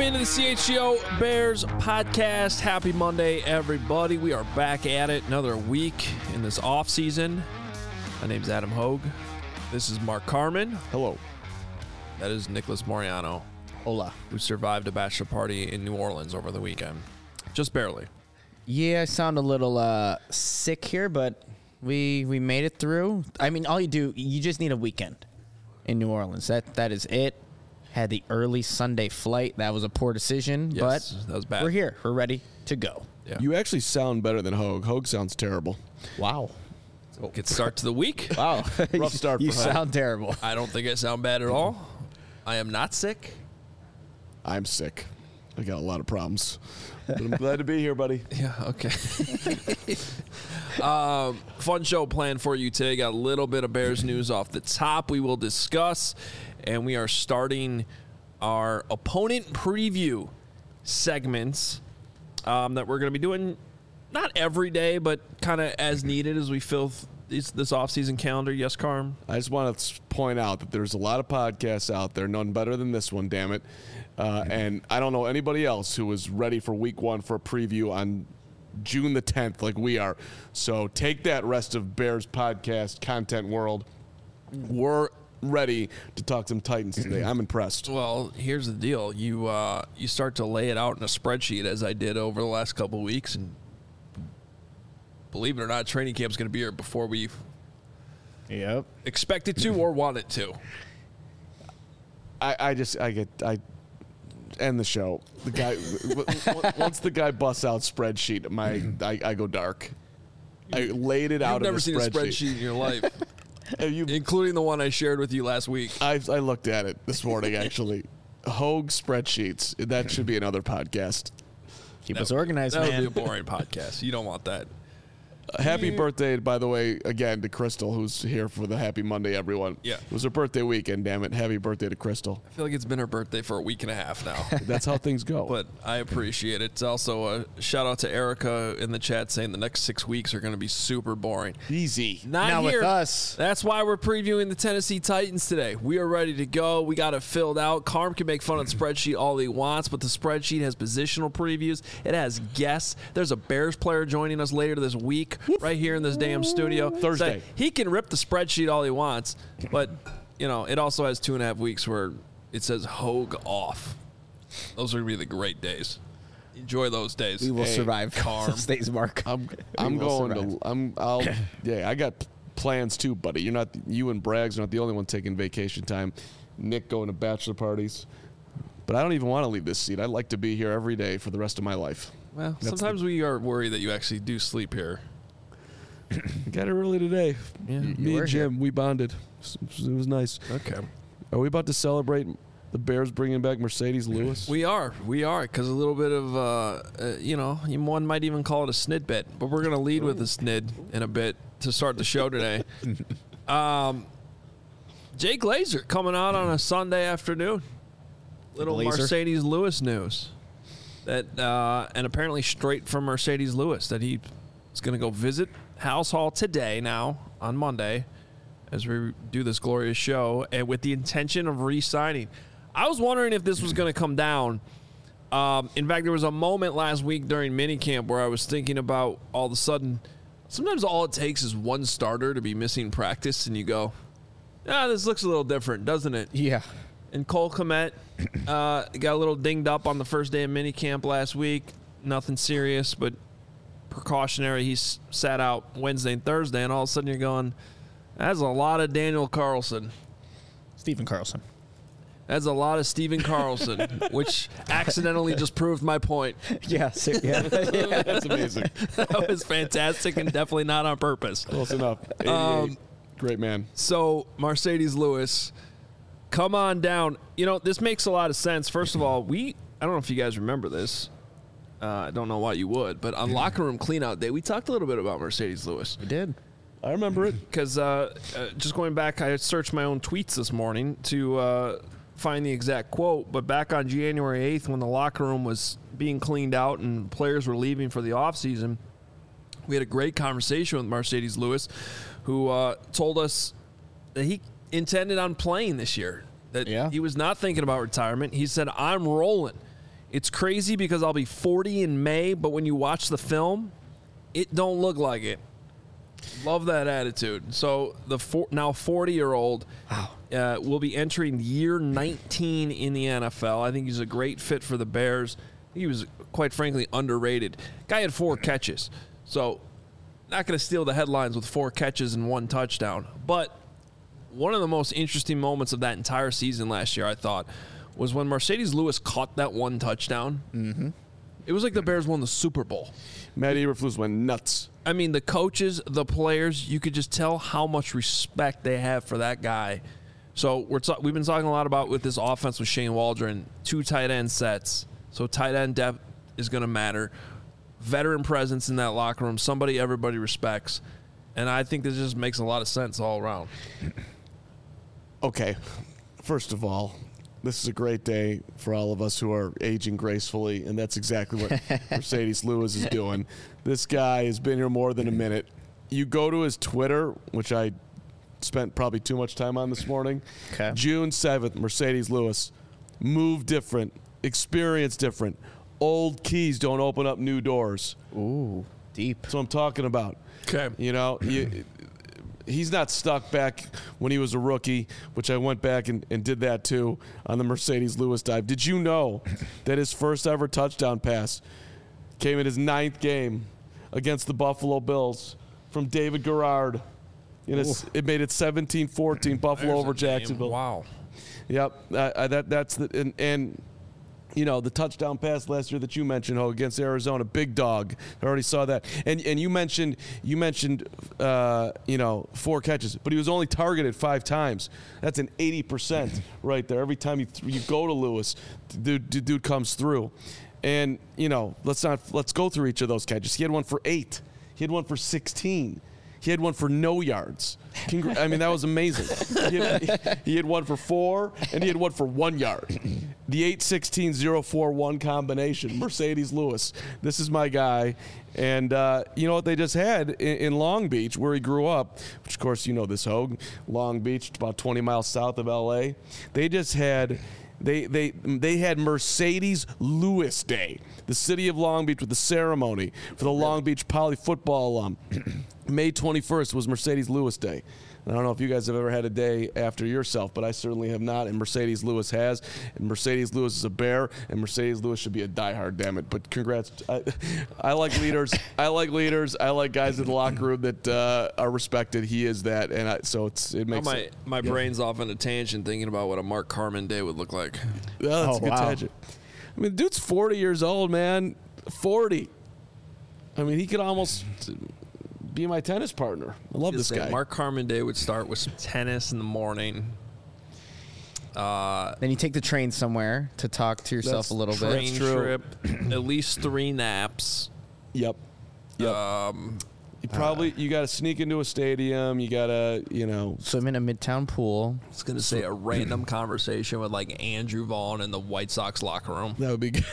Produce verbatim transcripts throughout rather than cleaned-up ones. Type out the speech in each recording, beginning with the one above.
into the C H G O Bears podcast. Happy Monday, everybody. We are back at it. Another week in this off season. My name's Adam Hogue. This is Mark Carman. Hello. That is Nicholas Moriano. Hola. Who survived a bachelor party in New Orleans over the weekend. Just barely. Yeah, I sound a little uh, sick here, but we we made it through. I mean, all you do, you just need a weekend in New Orleans. That That is it. Had the early Sunday flight. That was a poor decision, Yes, but that was bad. we're here. We're ready to go. Yeah. You actually sound better than Hogue. Hogue sounds terrible. Wow. Good start to the week. Wow. Rough start You for Hogue. sound terrible. I don't think I sound bad at all. I am not sick. I'm sick. I got a lot of problems. But I'm glad to be here, buddy. Yeah, okay. um, fun show planned for you today. Got a little bit of Bears news off the top we will discuss. And we are starting our opponent preview segments um, that we're going to be doing not every day, but kind of as needed as we fill this, this offseason calendar. Yes, Carm? I just want to point out that there's a lot of podcasts out there, none better than this one, damn it. Uh, and I don't know anybody else who is ready for week one for a preview on June the tenth like we are. So take that, rest of Bears podcast content world. We're ready to talk some Titans today. I'm impressed. Well, here's the deal. You uh, you start to lay it out in a spreadsheet, as I did over the last couple of weeks, and believe it or not, training camp's going to be here before we Yep. expect it to or want it to. I, I just I get I end the show. The guy w- once the guy busts out spreadsheet, my I, I go dark. I laid it out. You've never in seen a a spreadsheet. spreadsheet in your life, Have you, including the one I shared with you last week. I I looked at it this morning actually. Hogue spreadsheets. That should be another podcast. Keep That- us organized, That man. would be a boring podcast. You don't want that. Uh, happy birthday, by the way, again to Crystal, who's here for the Happy Monday, everyone. Yeah. It was her birthday weekend. Damn it! Happy birthday to Crystal. I feel like it's been her birthday for a week and a half now. That's how things go. But I appreciate it. It's also a shout out to Erica in the chat saying the next six weeks are going to be super boring. Easy. Not Not with here. us. That's why we're previewing the Tennessee Titans today. We are ready to go. We got it filled out. Carm can make fun of the spreadsheet all he wants, but the spreadsheet has positional previews. It has guests. There's a Bears player joining us later this week right here in this damn studio. Thursday. So he can rip the spreadsheet all he wants, but, you know, it also has two and a half weeks where it says Hogue off. Those are going to be the great days. Enjoy those days. We will Hey, survive. Carm. Stays Mark. I'm I'm will going survive. to I'm I'll yeah, I got p- plans too, buddy. You're not you and Braggs are not the only one taking vacation time. Nick going to bachelor parties. But I don't even want to leave this seat. I'd like to be here every day for the rest of my life. Well, That's sometimes we are worried that you actually do sleep here. I got it early today. Yeah. Me You were and Jim, we bonded. It was nice. Okay. Are we about to celebrate the Bears bringing back Mercedes Lewis? We are. We are. Because a little bit of, uh, uh, you know, one might even call it a snid bit. But we're going to lead with a snid in a bit to start the show today. um, Jay Glazer coming out on a Sunday afternoon. Little Glazer? Mercedes Lewis news. That uh, and apparently straight from Mercedes Lewis that he is going to go visit House Hall today now on Monday as we do this glorious show and with the intention of re-signing. I was wondering if this was going to come down. Um, in fact, there was a moment last week during minicamp where I was thinking about all of a sudden, sometimes all it takes is one starter to be missing practice and you go, ah, this looks a little different, doesn't it? Yeah. And Cole Kmet uh, got a little dinged up on the first day of minicamp last week. Nothing serious, but precautionary. He's sat out Wednesday and Thursday, and all of a sudden you're going, that's a lot of Daniel Carlson. Stephen Carlson. That's a lot of Steven Carlson, which accidentally just proved my point. Yeah. So, yeah. That's amazing. That was fantastic and definitely not on purpose. Close enough. eighty-eight. Um, Great man. So, Mercedes Lewis, come on down. You know, this makes a lot of sense. First of all, we, I don't know if you guys remember this. Uh, I don't know why you would, but on locker room cleanout day, we talked a little bit about Mercedes Lewis. We did. I remember it. Because uh, uh, just going back, I searched my own tweets this morning to uh, find the exact quote, but back on January eighth when the locker room was being cleaned out and players were leaving for the offseason, we had a great conversation with Mercedes Lewis, who uh, told us that he intended on playing this year, that Yeah. he was not thinking about retirement. He said, I'm rolling. It's crazy because I'll be forty in May, but when you watch the film, it don't look like it. Love that attitude. So the four, now forty-year-old Wow. uh, will be entering year nineteen in the N F L. I think he's a great fit for the Bears. He was, quite frankly, underrated. Guy had four catches. So not going to steal the headlines with four catches and one touchdown. But one of the most interesting moments of that entire season last year, I thought, was when Mercedes Lewis caught that one touchdown. Mm-hmm. It was like the Bears won the Super Bowl. Matt Eberflus went nuts. I mean, the coaches, the players, you could just tell how much respect they have for that guy. So we're t- we've been talking a lot about with this offense with Shane Waldron, two tight end sets. So tight end depth is going to matter. Veteran presence in that locker room, somebody everybody respects. And I think this just makes a lot of sense all around. Okay, first of all, this is a great day for all of us who are aging gracefully, and that's exactly what Mercedes Lewis is doing. This guy has been here more than a minute. You go to his Twitter, which I spent probably too much time on this morning. Okay. June seventh, Mercedes Lewis. Move different. Experience different. Old keys don't open up new doors. Ooh, deep. That's what I'm talking about. Okay. You know, you, he's not stuck back when he was a rookie, which I went back and, and did that too on the Mercedes Lewis dive. Did you know that his first ever touchdown pass came in his ninth game against the Buffalo Bills from David Garrard? You know, it made it seventeen fourteen Buffalo There's over a name. Jacksonville. Wow. Yep, uh, uh, that that's the and, and you know the touchdown pass last year that you mentioned, Ho, against Arizona, big dog. I already saw that, and and you mentioned you mentioned uh, you know four catches, but he was only targeted five times. That's an eighty percent right there. Every time you th- you go to Lewis, dude, dude, dude comes through, and you know let's not let's go through each of those catches. He had one for eight. He had one for sixteen. He had one for no yards. Congr- I mean, that was amazing. He had, he had one for four, and he had one for one yard. The eight sixteen oh four one combination, Mercedes Lewis. This is my guy. And uh, you know what they just had in, in Long Beach, where he grew up, which, of course, you know this, Hogue. Long Beach, about twenty miles south of L A. They just had... They they they had Mercedes Lewis Day, the city of Long Beach, with the ceremony for the Long Beach Poly football alum. May twenty-first was Mercedes Lewis Day. I don't know if you guys have ever had a day after yourself, but I certainly have not, and Mercedes Lewis has. And Mercedes Lewis is a bear, and Mercedes Lewis should be a diehard, damn it. But congrats. I, I like leaders. I like leaders. I like guys in the locker room that uh, are respected. He is that, and I, so it's it makes my it, my yeah. brain's off on a tangent thinking about what a Mark Carman day would look like. Oh, that's Oh, a good wow. tangent. I mean, dude's forty years old, man. forty. I mean, he could almost be my tennis partner. I love this Just say guy. Mark Carman day would start with some tennis in the morning. Uh, Then you take the train somewhere to talk to yourself That's a little bit. train true. trip, at least three naps. Yep. Yep. Um, you probably you got to sneak into a stadium. You got to, you know. Swim in a midtown pool. I was gonna say a random conversation with like Andrew Vaughn in the White Sox locker room That would be good.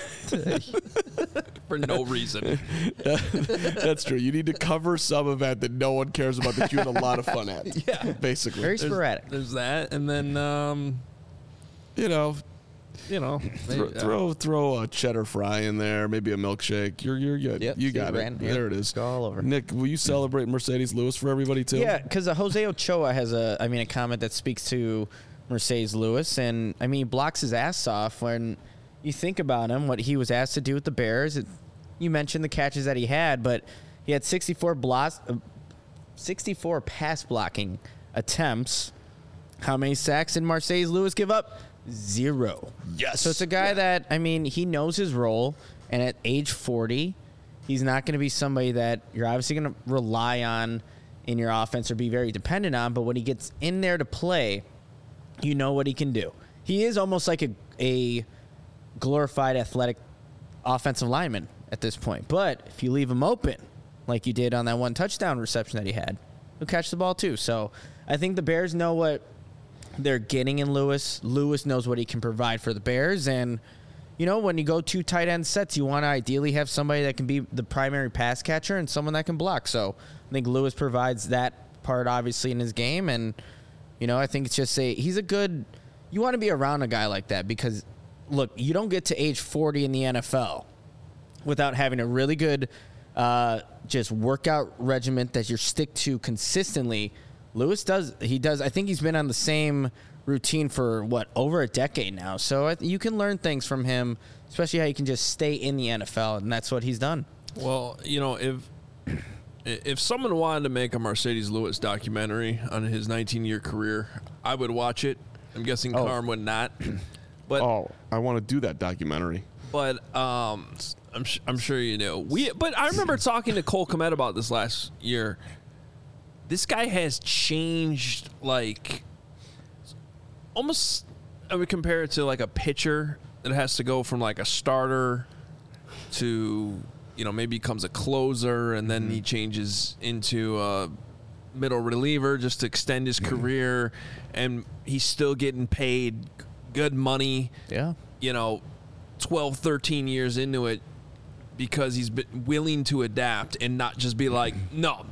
for no reason. That's true. You need to cover some event that no one cares about that you had a lot of fun at. Yeah. Basically. Very sporadic. There's that, and then um, you know, you know, throw, maybe, uh, throw throw a cheddar fry in there, maybe a milkshake. You're you're good. Yep, you see, got it. Brandon. Yep. There it is. Go all over. Nick, will you celebrate Mercedes Lewis for everybody too? Yeah, because Jose Ochoa has a, I mean, a comment that speaks to Mercedes Lewis, and I mean, he blocks his ass off when you think about him, what he was asked to do with the Bears. It, you mentioned the catches that he had, but he had sixty-four blocks, uh, sixty-four pass blocking attempts. How many sacks did Mercedes Lewis give up? Zero. Yes. So it's a guy that, I mean, he knows his role, and at age forty, he's not going to be somebody that you're obviously going to rely on in your offense or be very dependent on, but when he gets in there to play, you know what he can do. He is almost like a, a glorified athletic offensive lineman at this point. But if you leave him open, like you did on that one touchdown reception that he had, he'll catch the ball too. So I think the Bears know what they're getting in Lewis. Lewis knows what he can provide for the Bears. And, you know, when you go two tight end sets, you want to ideally have somebody that can be the primary pass catcher and someone that can block. So I think Lewis provides that part, obviously, in his game. And, you know, I think it's just a, he's a good, you want to be around a guy like that because look, you don't get to age forty in the N F L without having a really good uh, just workout regimen that you stick to consistently. Lewis does. He does. I think he's been on the same routine for, what, over a decade now. So I, you can learn things from him, especially how you can just stay in the N F L, and that's what he's done. Well, you know, if if someone wanted to make a Marcedes Lewis documentary on his nineteen-year career, I would watch it. I'm guessing Oh. Carm would not. But Oh, I want to do that documentary. but um, I'm sh- I'm sure you know. We but I remember talking to Cole Kmet about this last year. This guy has changed, like, almost. I would compare it to like a pitcher that has to go from like a starter to, you know, maybe becomes a closer, and then he changes into a middle reliever just to extend his career, and he's still getting paid good money. Yeah. You know, twelve, thirteen years into it, because he's been willing to adapt and not just be like, no,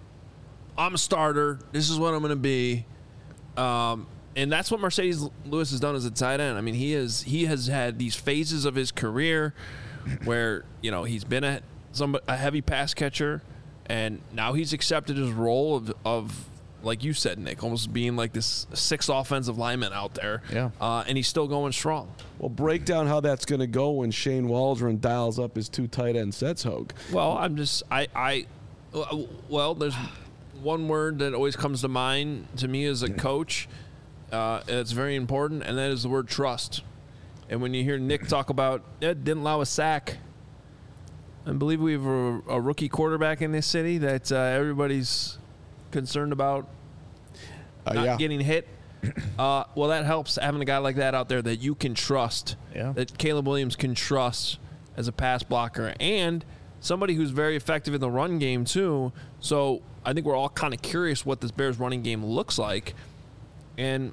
I'm a starter. This is what I'm going to be. Um, and that's what Marcedes Lewis has done as a tight end. I mean, he is he has had these phases of his career where, you know, he's been a some a heavy pass catcher, and now he's accepted his role of, of like you said, Nick, almost being like this sixth offensive lineman out there. Yeah. Uh, and he's still going strong. Well, break down how that's going to go when Shane Waldron dials up his two tight end sets, Hogue. Well, I'm just I I well, there's one word that always comes to mind to me as a coach. Uh, it's very important, and that is the word trust. And when you hear Nick talk about it, didn't allow a sack, I believe we have a, a rookie quarterback in this city that uh, everybody's concerned about Uh, not yeah. getting hit. Uh, well, that helps having a guy like that out there that you can trust, Yeah. that Caleb Williams can trust as a pass blocker, and somebody who's very effective in the run game too. So I think we're all kind of curious what this Bears running game looks like. And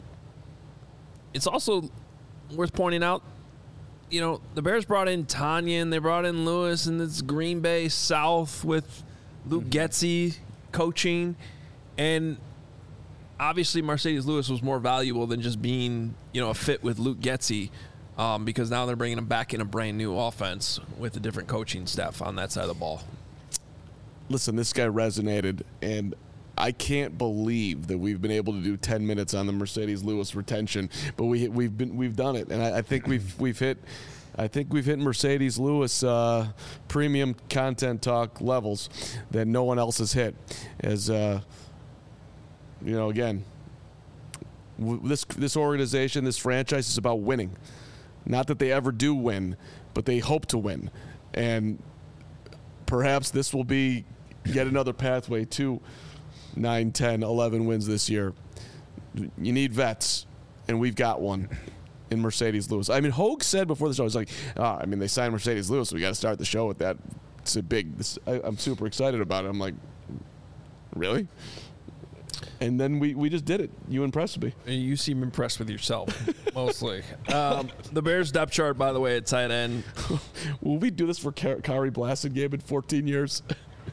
it's also worth pointing out, you know, the Bears brought in Tanyan, they brought in Lewis, and it's Green Bay South with Luke Getsy coaching. And obviously Marcedes Lewis was more valuable than just being, you know, a fit with Luke Getsy, um, because now they're bringing him back in a brand new offense with a different coaching staff on that side of the ball. Listen, this guy resonated, and I can't believe that we've been able to do ten minutes on the Marcedes Lewis retention, but we we've been we've done it, and I, I think we've we've hit. I think we've hit Marcedes Lewis uh, premium content talk levels that no one else has hit. As uh, you know, again, w- this this organization, this franchise is about winning. Not that they ever do win, but they hope to win, and perhaps this will be yet another pathway to nine, ten, eleven wins this year. You need vets, and we've got one in Marcedes Lewis. I mean, Hogue said before the show, he's like, oh, I mean, they signed Marcedes Lewis, so we got to start the show with that. It's a big, this, I, I'm super excited about it. I'm like, really? And then we, we just did it. You impressed me. You seem impressed with yourself, mostly. Um, the Bears depth chart, by the way, at tight end. Will we do this for Car- Kari Blasingame in fourteen years?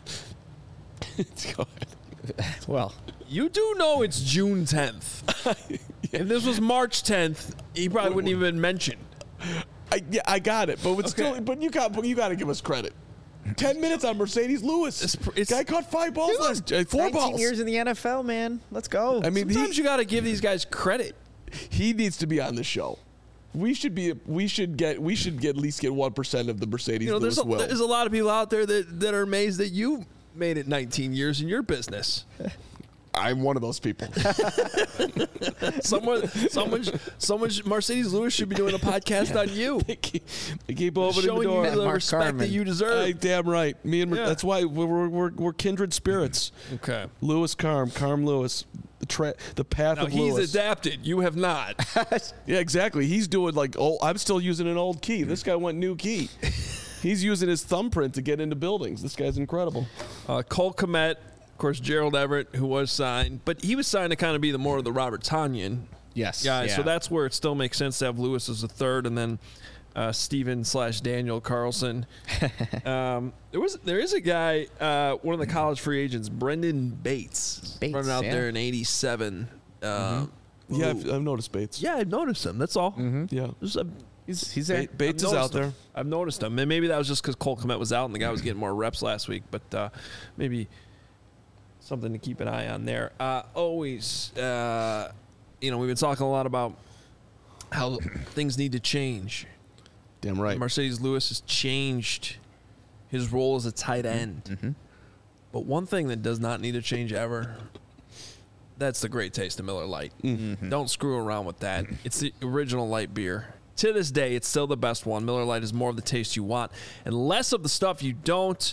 Go ahead. Well, You do know it's June tenth. If this was March tenth, he probably wouldn't even been mentioned. I, yeah, I got it, but it's Okay. still, but you got, but you got to give us credit. Ten minutes on Marcedes Lewis. It's pr- it's- Guy caught five balls last, uh, four nineteen balls. years in the N F L, man. Let's go. I mean, Sometimes he, you got to give these guys credit. he needs to be on the show. We should be. We should get. We should get at least get one percent of the Marcedes You know, Lewis there's a, will. there's a lot of people out there that, that are amazed that you made it nineteen years in your business. I'm one of those people. Someone, someone, someone, Marcedes Lewis should be doing a podcast on you, they, keep, they keep opening the showing door. you the Mark respect Carman. that you I, deserve. damn right. Me and Yeah. that's why we're, we're we're kindred spirits. Okay. Lewis Carm, Carm Lewis, the tra- the path Now of he's Lewis. adapted. You have not. Yeah, exactly. He's doing like, oh, I'm still using an old key. This guy went new key. He's using his thumbprint to get into buildings. This guy's incredible. Uh, Cole Kmet, of course, Gerald Everett, who was signed, but he was signed to kind of be the more of the Robert Tanyan yes. guy. Yeah. So that's where it still makes sense to have Lewis as a third, and then uh, Steven slash Daniel Carlson. um, there was there is a guy, uh, one of the college free agents, Brendan Bates, Bates, running out yeah. there in eighty-seven. Uh, Yeah, who- I've, I've noticed Bates. yeah, I've noticed him. That's all. Yeah. Just, uh, He's he's there. Ba- Bates I've is out noticed him. there. I've noticed him. And maybe that was just because Cole Kmet was out and the guy was getting more reps last week. But uh, maybe something to keep an eye on there. Uh, always, uh, you know, we've been talking a lot about how things need to change. Damn right. Mercedes Lewis has changed his role as a tight end. Mm-hmm. But one thing that does not need to change ever, that's the great taste of Miller Lite. Mm-hmm. Don't screw around with that. It's the original light beer. To this day, it's still the best one. Miller Lite is more of the taste you want and less of the stuff you don't.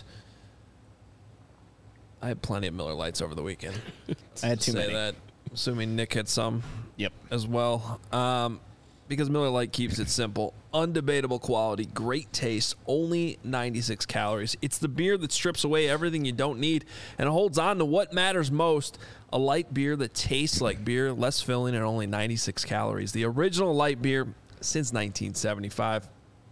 I had plenty of Miller Lights over the weekend. I had too Say many. that. Assuming Nick had some. Yep. As well. Um, because Miller Lite keeps it simple. Undebatable quality. Great taste. Only ninety-six calories. It's the beer that strips away everything you don't need and holds on to what matters most. A light beer that tastes like beer, less filling, and only ninety-six calories. The original light beer since nineteen seventy-five.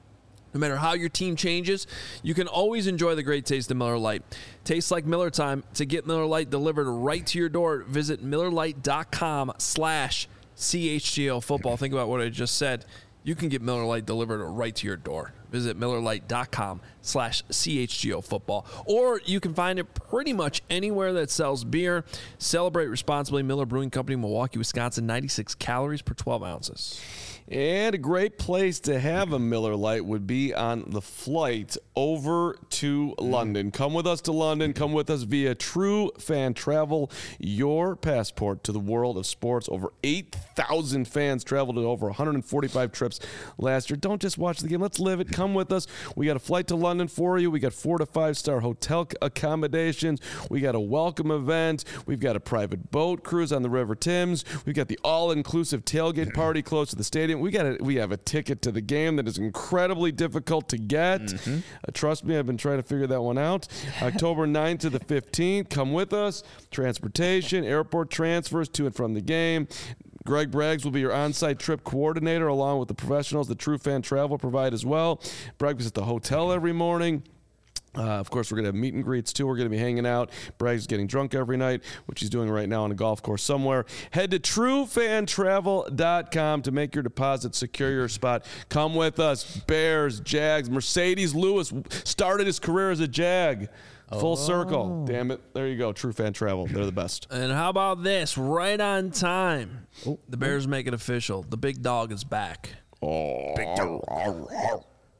No matter how your team changes, you can always enjoy the great taste of Miller Lite. Tastes like Miller time. To get Miller Lite delivered right to your door, visit Miller Lite dot com slash C H G O football. Think about what I just said. You can get Miller Lite delivered right to your door. Visit Miller Lite dot com slash C H G O football. Or you can find it pretty much anywhere that sells beer. Celebrate responsibly. Miller Brewing Company, Milwaukee, Wisconsin. ninety-six calories per twelve ounces. And a great place to have a Miller Lite would be on the flight over to London. Come with us to London. Come with us via True Fan Travel, your passport to the world of sports. Over eight thousand fans traveled to over one hundred forty-five trips last year. Don't just watch the game. Let's live it. Come with us. We got a flight to London for you. We got four to five star hotel accommodations. We got a welcome event. We've got a private boat cruise on the River Thames. We've got the all-inclusive tailgate party close to the stadium. We got a, we have a ticket to the game that is incredibly difficult to get. Mm-hmm. Uh, trust me, I've been trying to figure that one out. October ninth to the fifteenth. Come with us. Transportation, airport transfers to and from the game. Greg Braggs will be your on-site trip coordinator along with the professionals that True Fan Travel provide as well. Braggs is at the hotel every morning. Uh, of course, we're going to have meet and greets, too. We're going to be hanging out. Braggs is getting drunk every night, which he's doing right now on a golf course somewhere. Head to true fan travel dot com to make your deposit, secure your spot. Come with us. Bears, Jags, Mercedes Lewis started his career as a Jag. Full Oh. circle. Damn it. There you go. True Fan Travel. They're the best. And how about this? Right on time. Oh. The Bears make it official. The big dog is back. Oh. Big dog.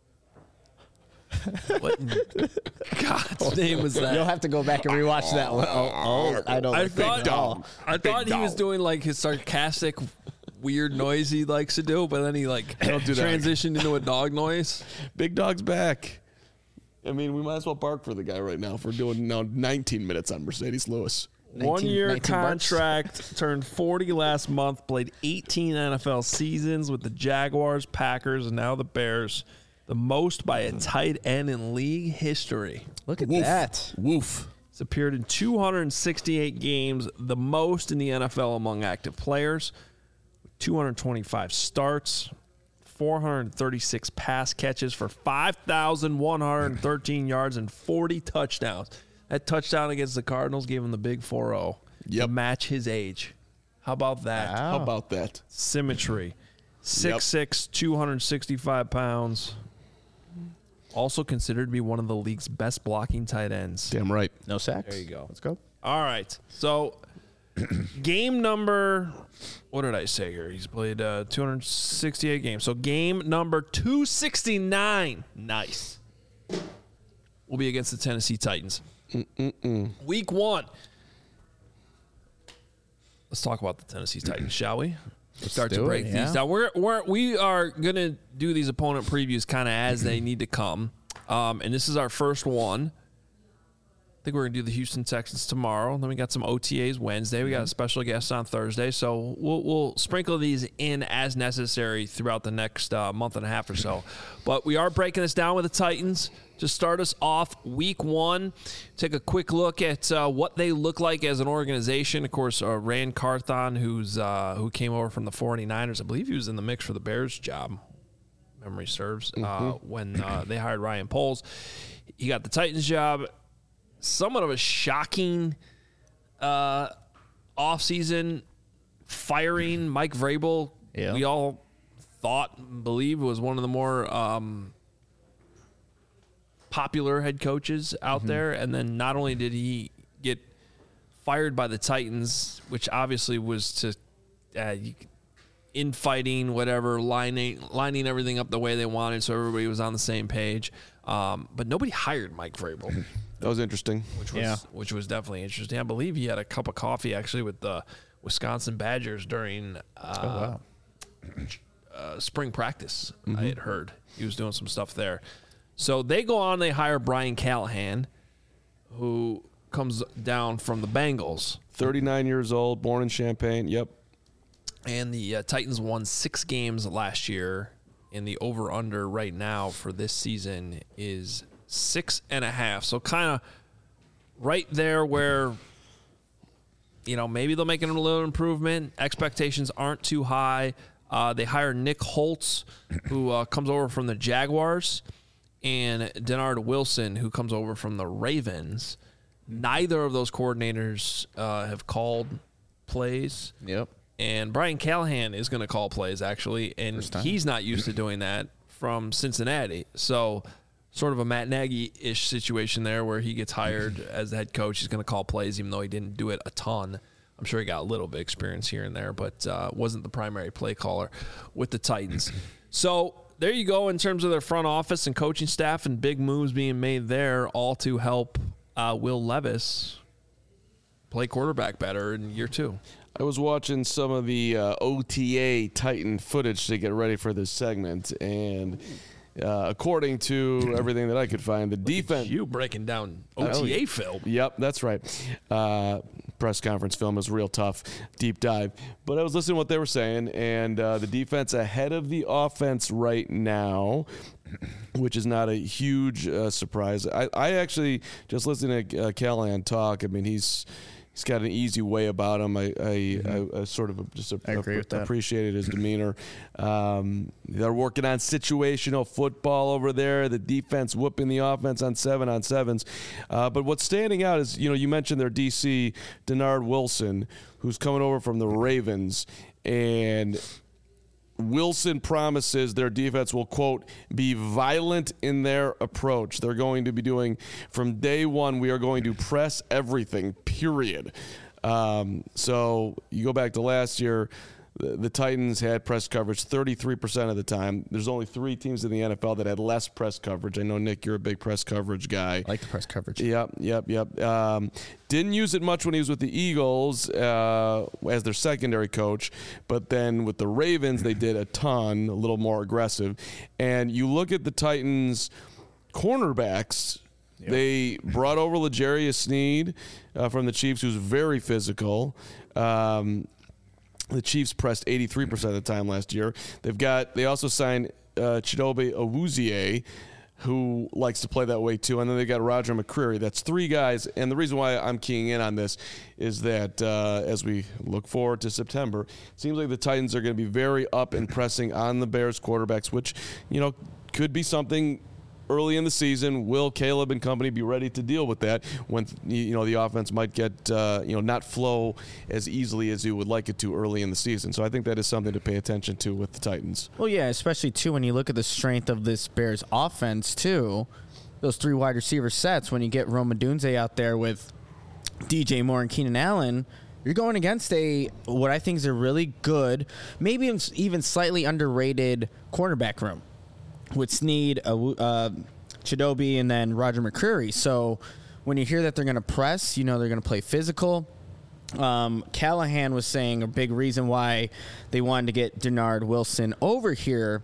What in God's name was that? You'll have to go back and rewatch that one. Oh, oh I don't. I like thought, big dog. I thought he dog. was doing like his sarcastic, weird noise he likes to do, but then he like Don't do that. transitioned into a dog noise. Big Dog's back. I mean, we might as well bark for the guy right now for doing now nineteen minutes on Mercedes Lewis. One year nineteen bucks. contract, turned forty last month, played eighteen N F L seasons with the Jaguars, Packers, and now the Bears. The most by a tight end in league history. Look at Woof. that. Woof. He's appeared in two hundred sixty-eight games, the most in the N F L among active players. two hundred twenty-five starts, four hundred thirty-six pass catches for five thousand one hundred thirteen yards and forty touchdowns. That touchdown against the Cardinals gave him the big four oh Yep. to match his age. How about that? Wow. How about that? Symmetry. six six, two hundred sixty-five pounds. Also considered to be one of the league's best blocking tight ends. Damn right. No sacks. There you go. Let's go. All right. So, game number, what did I say here? He's played uh, two hundred sixty-eight games. So, game number two sixty-nine. Nice. Will be against the Tennessee Titans. Mm-mm-mm. Week one. Let's talk about the Tennessee Titans, shall we? Let's start to do break it, these yeah. down. We're, we're, we are going to do these opponent previews kind of as they need to come. Um, and this is our first one. I think we're going to do the Houston Texans tomorrow. Then we got some O T As Wednesday. We got a special guest on Thursday. So we'll, we'll sprinkle these in as necessary throughout the next uh, month and a half or so. But we are breaking this down with the Titans to start us off week one. Take a quick look at uh, what they look like as an organization. Of course, uh, Rand Carthon, who's uh, who came over from the forty-niners. I believe he was in the mix for the Bears job, memory serves, uh, Mm-hmm. when uh, they hired Ryan Poles. He got the Titans job. Somewhat of a shocking uh, offseason firing Mike Vrabel. Yeah. We all thought, believe, was one of the more um, popular head coaches out mm-hmm. there. And then not only did he get fired by the Titans, which obviously was to uh, infighting, whatever, lining lining everything up the way they wanted, so everybody was on the same page. Um, but nobody hired Mike Vrabel. That was interesting. Which was yeah. which was definitely interesting. I believe he had a cup of coffee actually with the Wisconsin Badgers during uh, oh, wow. uh, spring practice. Mm-hmm. I had heard he was doing some stuff there. So they go on, they hire Brian Callahan, who comes down from the Bengals. thirty-nine years old, born in Champaign. Yep. And the uh, Titans won six games last year, and the over-under right now for this season is six and a half. So kind of right there where, you know, maybe they'll make a little improvement. Expectations aren't too high. Uh, they hire Nick Holtz, who uh, comes over from the Jaguars, and Denard Wilson, who comes over from the Ravens. Neither of those coordinators uh, have called plays. Yep. And Brian Callahan is going to call plays, actually, and he's not used to doing that from Cincinnati. So sort of a Matt Nagy-ish situation there where he gets hired as the head coach. He's going to call plays, even though he didn't do it a ton. I'm sure he got a little bit of experience here and there, but uh, wasn't the primary play caller with the Titans. So there you go in terms of their front office and coaching staff, and big moves being made there, all to help uh, Will Levis play quarterback better in year two. I was watching some of the uh, O T A Titan footage to get ready for this segment, and uh, according to everything that I could find, the defense... You breaking down O T A oh, film. Yep, that's right. Uh, press conference film was real tough, deep dive. But I was listening to what they were saying, and uh, the defense ahead of the offense right now, which is not a huge uh, surprise. I, I actually, just listening to uh, Callahan talk, I mean, he's... He's got an easy way about him. I, I, mm-hmm. I, I sort of just a, I agree a, with that. appreciated his demeanor. Um, they're working on situational football over there. The defense whooping the offense on seven on sevens. Uh, but what's standing out is, you know, you mentioned their D C, Denard Wilson, who's coming over from the Ravens, and Wilson promises their defense will, quote, be violent in their approach. They're going to be doing, from day one, we are going to press everything, period. Um, so you go back to last year, the, the Titans had press coverage thirty-three percent of the time. There's only three teams in the N F L that had less press coverage. I know, Nick, you're a big press coverage guy. I like the press coverage. Yep, yep, yep. Um, didn't use it much when he was with the Eagles uh, as their secondary coach, but then with the Ravens, they did a ton, a little more aggressive. And you look at the Titans' cornerbacks. Yep. They brought over L'Jarius Sneed uh, from the Chiefs, who's very physical. Um, the Chiefs pressed eighty-three percent of the time last year. They've got. They also signed uh, Chidobe Awuzie, who likes to play that way too. And then they got Roger McCreary. That's three guys. And the reason why I'm keying in on this is that uh, as we look forward to September, it seems like the Titans are going to be very up and pressing on the Bears quarterbacks, which, you know, could be something early in the season. Will Caleb and company be ready to deal with that when, you know, the offense might get, uh, you know, not flow as easily as you would like it to early in the season? So I think that is something to pay attention to with the Titans. Well, yeah, especially, too, when you look at the strength of this Bears offense, too, those three wide receiver sets, when you get Rome Odunze out there with D J Moore and Keenan Allen, you're going against a what I think is a really good, maybe even slightly underrated cornerback room with Sneed, uh, uh, Chidobe, and then Roger McCreary. So when you hear that they're going to press, you know they're going to play physical. Um, Callahan was saying a big reason why they wanted to get Denard Wilson over here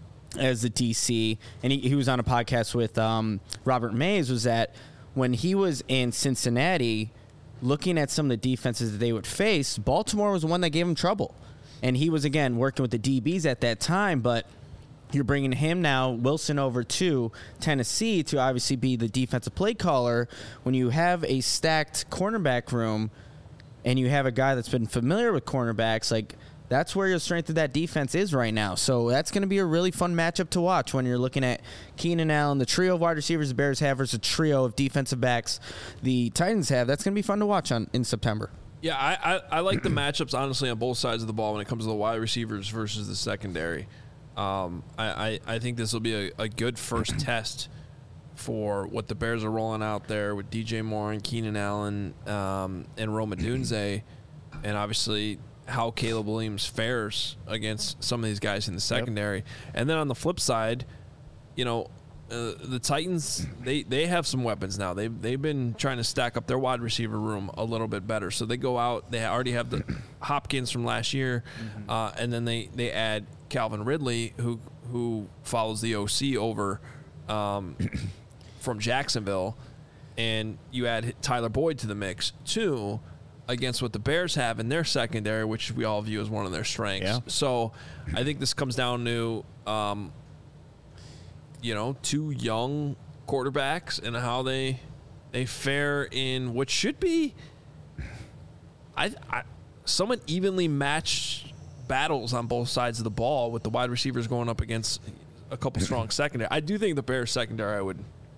as the D C, and he, he was on a podcast with um, Robert Mays, was that when he was in Cincinnati, looking at some of the defenses that they would face, Baltimore was the one that gave him trouble. And he was, again, working with the D Bs at that time, but you're bringing him now, Wilson, over to Tennessee to obviously be the defensive play caller. When you have a stacked cornerback room and you have a guy that's been familiar with cornerbacks, like that's where your strength of that defense is right now. So that's going to be a really fun matchup to watch when you're looking at Keenan Allen, the trio of wide receivers the Bears have versus a trio of defensive backs the Titans have. That's going to be fun to watch on in September. Yeah, I, I, I like the matchups, honestly, on both sides of the ball when it comes to the wide receivers versus the secondary. Um, I, I, I think this will be a, a good first test for what the Bears are rolling out there with D J Moore and Keenan Allen um, and Rome Odunze, and obviously how Caleb Williams fares against some of these guys in the secondary. Yep. And then on the flip side, you know, uh, the Titans, they, they have some weapons now. They've, they've been trying to stack up their wide receiver room a little bit better. So they go out, they already have the Hopkins from last year, mm-hmm. uh, and then they, they add Calvin Ridley, who who follows the O C over um, from Jacksonville, and you add Tyler Boyd to the mix, too, against what the Bears have in their secondary, which we all view as one of their strengths. Yeah. So I think this comes down to, um, you know, two young quarterbacks and how they they fare in what should be I, I somewhat evenly matched battles on both sides of the ball, with the wide receivers going up against a couple strong secondary. I do think the Bears secondary, I would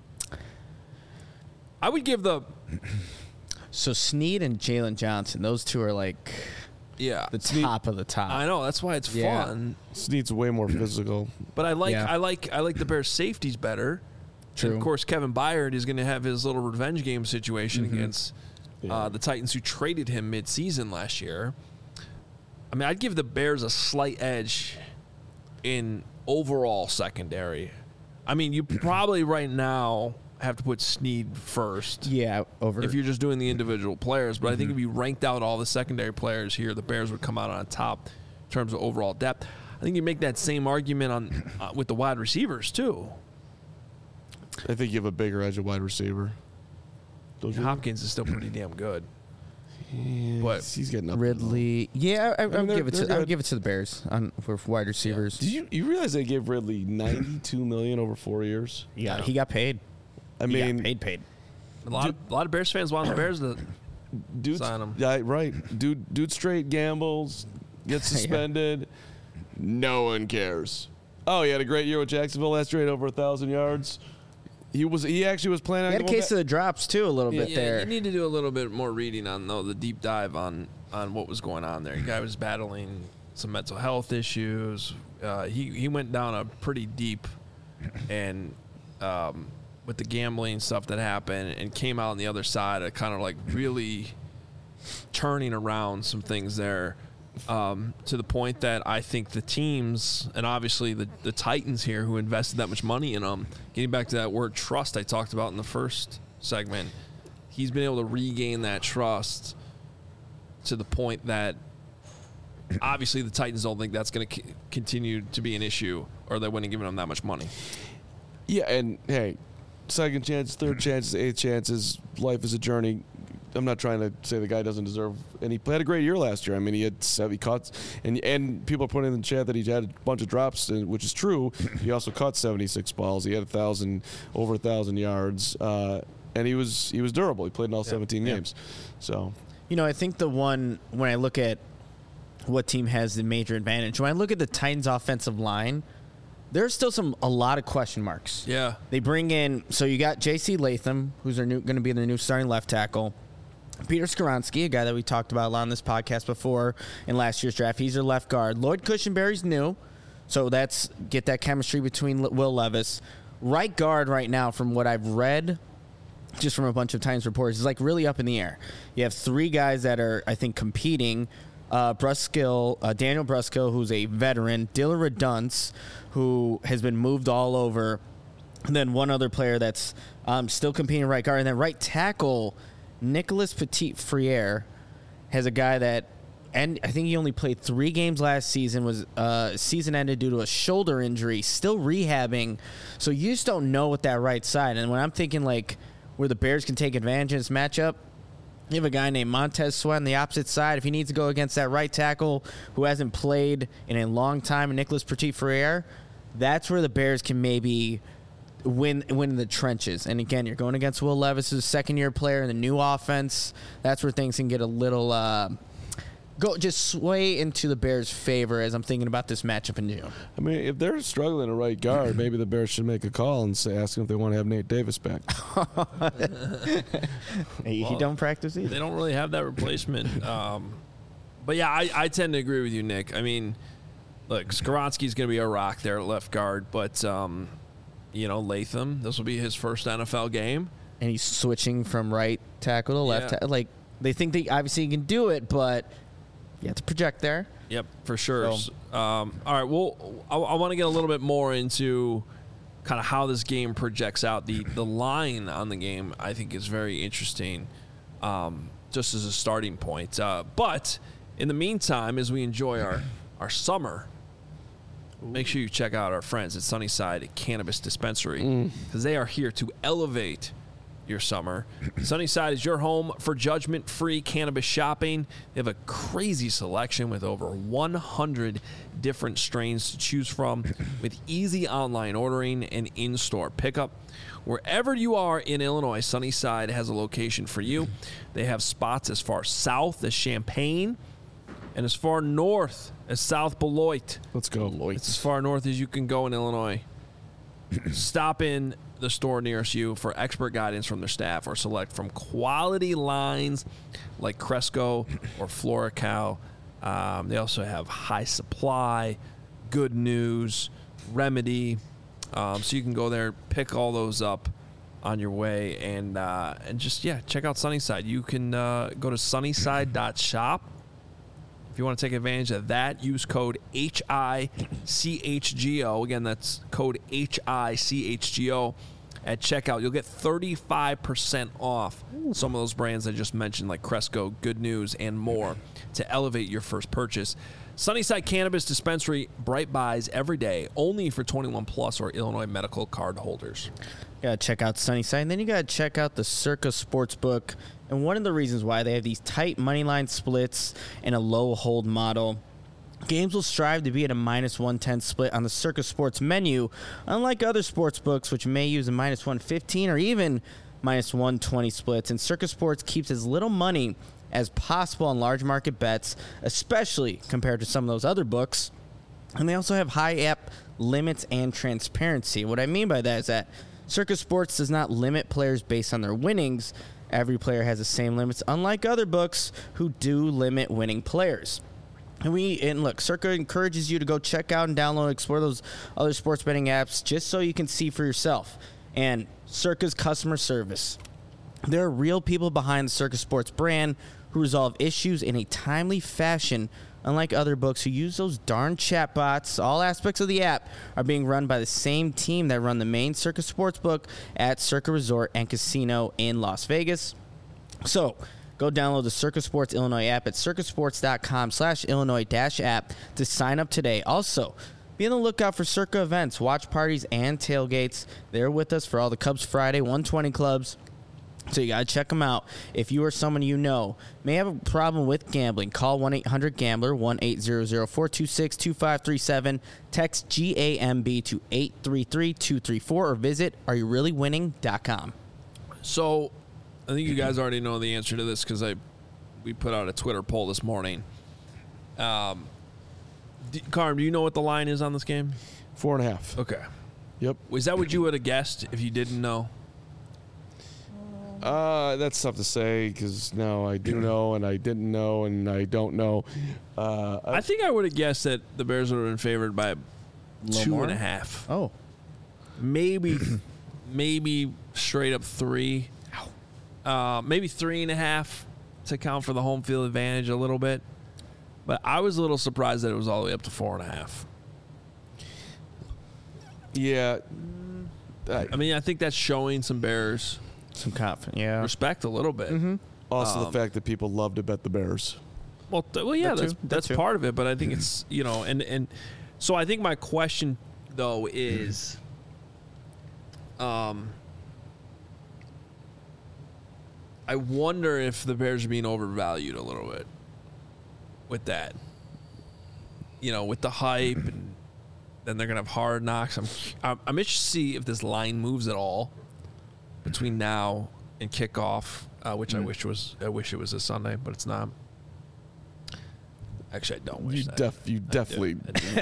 I would give the So Snead and Jalen Johnson, those two are like yeah the Snead, top of the top. I know, that's why it's yeah. fun. Snead's way more physical. But I like yeah. I like I like the Bears safeties better. True. And of course, Kevin Byard is going to have his little revenge game situation mm-hmm. against uh, yeah. the Titans, who traded him mid-season last year. I mean, I'd give the Bears a slight edge in overall secondary. I mean, you probably right now have to put Snead first. Yeah, over. If you're just doing the individual players. But mm-hmm. I think if you ranked out all the secondary players here, the Bears would come out on top in terms of overall depth. I think you make that same argument on uh, with the wide receivers, too. I think you have a bigger edge of wide receiver. Don't Hopkins is still pretty damn good. Yeah, but he's getting up. Ridley, yeah, I, I, I mean, give it to I would give it to the Bears on for wide receivers. Yeah. Did you you realize they gave Ridley ninety-two million over four years? Yeah, he got paid. I he mean, got paid, paid. A lot, dude, of, a lot of Bears fans want the Bears to dude, sign him. Yeah, right. Dude, dude, straight gambles, gets suspended. yeah. No one cares. Oh, he had a great year with Jacksonville last year, over a thousand yards. He was. He actually was planning. He had on a case back. of the drops too, a little yeah, bit yeah, there. You need to do a little bit more reading on though the deep dive on on what was going on there. The guy was battling some mental health issues. Uh, he he went down a pretty deep, and um, with the gambling stuff that happened, and came out on the other side of kind of like really turning around some things there. Um, to the point that I think the teams, and obviously the, the Titans here who invested that much money in him, getting back to that word trust I talked about in the first segment, he's been able to regain that trust to the point that obviously the Titans don't think that's going to c- continue to be an issue, or they wouldn't have given him that much money. Yeah, and hey, second chances, third chances, eighth chances, life is a journey. I'm not trying to say the guy doesn't deserve, and he had a great year last year. I mean, he had seven cuts, and and people are putting in the chat that he had a bunch of drops, which is true. He also caught seventy-six balls. He had a thousand, over a thousand yards, uh, and he was he was durable. He played in all yeah. seventeen yeah. games. So, you know, I think the one when I look at what team has the major advantage, when I look at the Titans' offensive line, there's still some a lot of question marks. Yeah, they bring in so you got J C Latham, who's their new going to be their new starting left tackle. Peter Skoronski, a guy that we talked about a lot on this podcast before in last year's draft. He's their left guard. Lloyd Cushenberry's new, so that's get that chemistry between Will Levis. Right guard right now, from what I've read, just from a bunch of Times reports, is like really up in the air. You have three guys that are, I think, competing. Uh, Bruskill, uh, Daniel Bruskill, who's a veteran. Diller Redunce, who has been moved all over. And then one other player that's um, still competing right guard. And then right tackle, Nicholas Petit-Frere has a guy that, and I think he only played three games last season, was uh, season ended due to a shoulder injury, still rehabbing. So you just don't know what that right side. And when I'm thinking like where the Bears can take advantage of this matchup, you have a guy named Montez Sweat on the opposite side. If he needs to go against that right tackle who hasn't played in a long time, Nicholas Petit-Frere, that's where the Bears can maybe win win in the trenches. And again, you're going against Will Levis, who's a second-year player in the new offense. That's where things can get a little uh, go just sway into the Bears' favor as I'm thinking about this matchup in June. I mean, if they're struggling at right guard, maybe the Bears should make a call and say, ask them if they want to have Nate Davis back. he, well, he don't practice either. They don't really have that replacement. Um, but yeah, I, I tend to agree with you, Nick. I mean, look, Skaronski's going to be a rock there at left guard, but, um, you know, Latham, this will be his first N F L game. And he's switching from right tackle to left. Yeah. Ta- like, they think they obviously he can do it, but you have to project there. Yep, for sure. So- Um, all right, well, I, I want to get a little bit more into kind of how this game projects out. The the line on the game, I think, is very interesting, um, just as a starting point. Uh, but in the meantime, as we enjoy our, our summer, make sure you check out our friends at Sunnyside Cannabis Dispensary, because they are here to elevate your summer. Sunnyside is your home for judgment-free cannabis shopping. They have a crazy selection with over one hundred different strains to choose from, with easy online ordering and in-store pickup. Wherever you are in Illinois, Sunnyside has a location for you. They have spots as far south as Champaign and as far north as South Beloit. Let's go, It's as Lloyd. far north as you can go in Illinois. Stop in the store nearest you for expert guidance from their staff, or select from quality lines like Cresco or FloraCal. Um, they also have High Supply, Good News, Remedy. Um, so you can go there, pick all those up on your way, and uh, and just, yeah, check out Sunnyside. You can uh, go to sunnyside dot shop. If you want to take advantage of that, use code H I C H G O. Again, that's code H I C H G O at checkout. You'll get thirty-five percent off some of those brands I just mentioned, like Cresco, Good News, and more, to elevate your first purchase. Sunnyside Cannabis Dispensary, bright buys every day, only for twenty-one plus or Illinois medical card holders. You gotta check out Sunnyside, and then you gotta check out the Circa Sportsbook. And one of the reasons why they have these tight money line splits and a low hold model. Games will strive to be at a minus one ten split on the Circa Sports menu, unlike other sports books, which may use a minus one fifteen or even minus one twenty splits. And Circa Sports keeps as little money as possible on large market bets, especially compared to some of those other books. And they also have high app limits and transparency. What I mean by that is that Circa Sports does not limit players based on their winnings. Every player has the same limits, unlike other books who do limit winning players. And we and look, Circa encourages you to go check out and download, explore those other sports betting apps just so you can see for yourself. And Circa's customer service. There are real people behind the Circa Sports brand who resolve issues in a timely fashion, unlike other books who use those darn chatbots. All aspects of the app are being run by the same team that run the main Circa Sportsbook at Circa Resort and Casino in Las Vegas. So, go download the Circa Sports Illinois app at circasports.com slash Illinois dash app to sign up today. Also, be on the lookout for Circa events, watch parties, and tailgates. They're with us for all the Cubs Friday one twenty clubs. So you got to check them out. If you or someone you know may have a problem with gambling, call one eight hundred gambler, one eight hundred, four two six, two five three seven. Text G A M B to eight three three, two three four or visit are you really winning dot com. So, I think you guys already know the answer to this because I we put out a Twitter poll this morning. Um, d- Carm, do you know what the line is on this game? Four and a half. Okay. Yep. Was that what you would have guessed if you didn't know? Uh, that's tough to say because no, I do know and I didn't know and I don't know. Uh, I think I would have guessed that the Bears would have been favored by little two more? and a half. Oh. Maybe, maybe straight up three. Uh, maybe three and a half to count for the home field advantage a little bit. But I was a little surprised that it was all the way up to four and a half. yeah. I, I mean, I think that's showing some Bears Some confidence. Yeah. respect a little bit. also, Um, the fact that people love to bet the Bears. Well, th- well, yeah, That that's too. That that's too. part of it. But I think it's you know, and and so I think my question though is, um, I wonder if the Bears are being overvalued a little bit with that. You know, with the hype, and then they're gonna have Hard Knocks. I'm I'm, I'm interested to see if this line moves at all between now and kickoff, uh, which I wish was I wish it was a Sunday, but it's not. Actually, I don't wish You that. def, you definitely.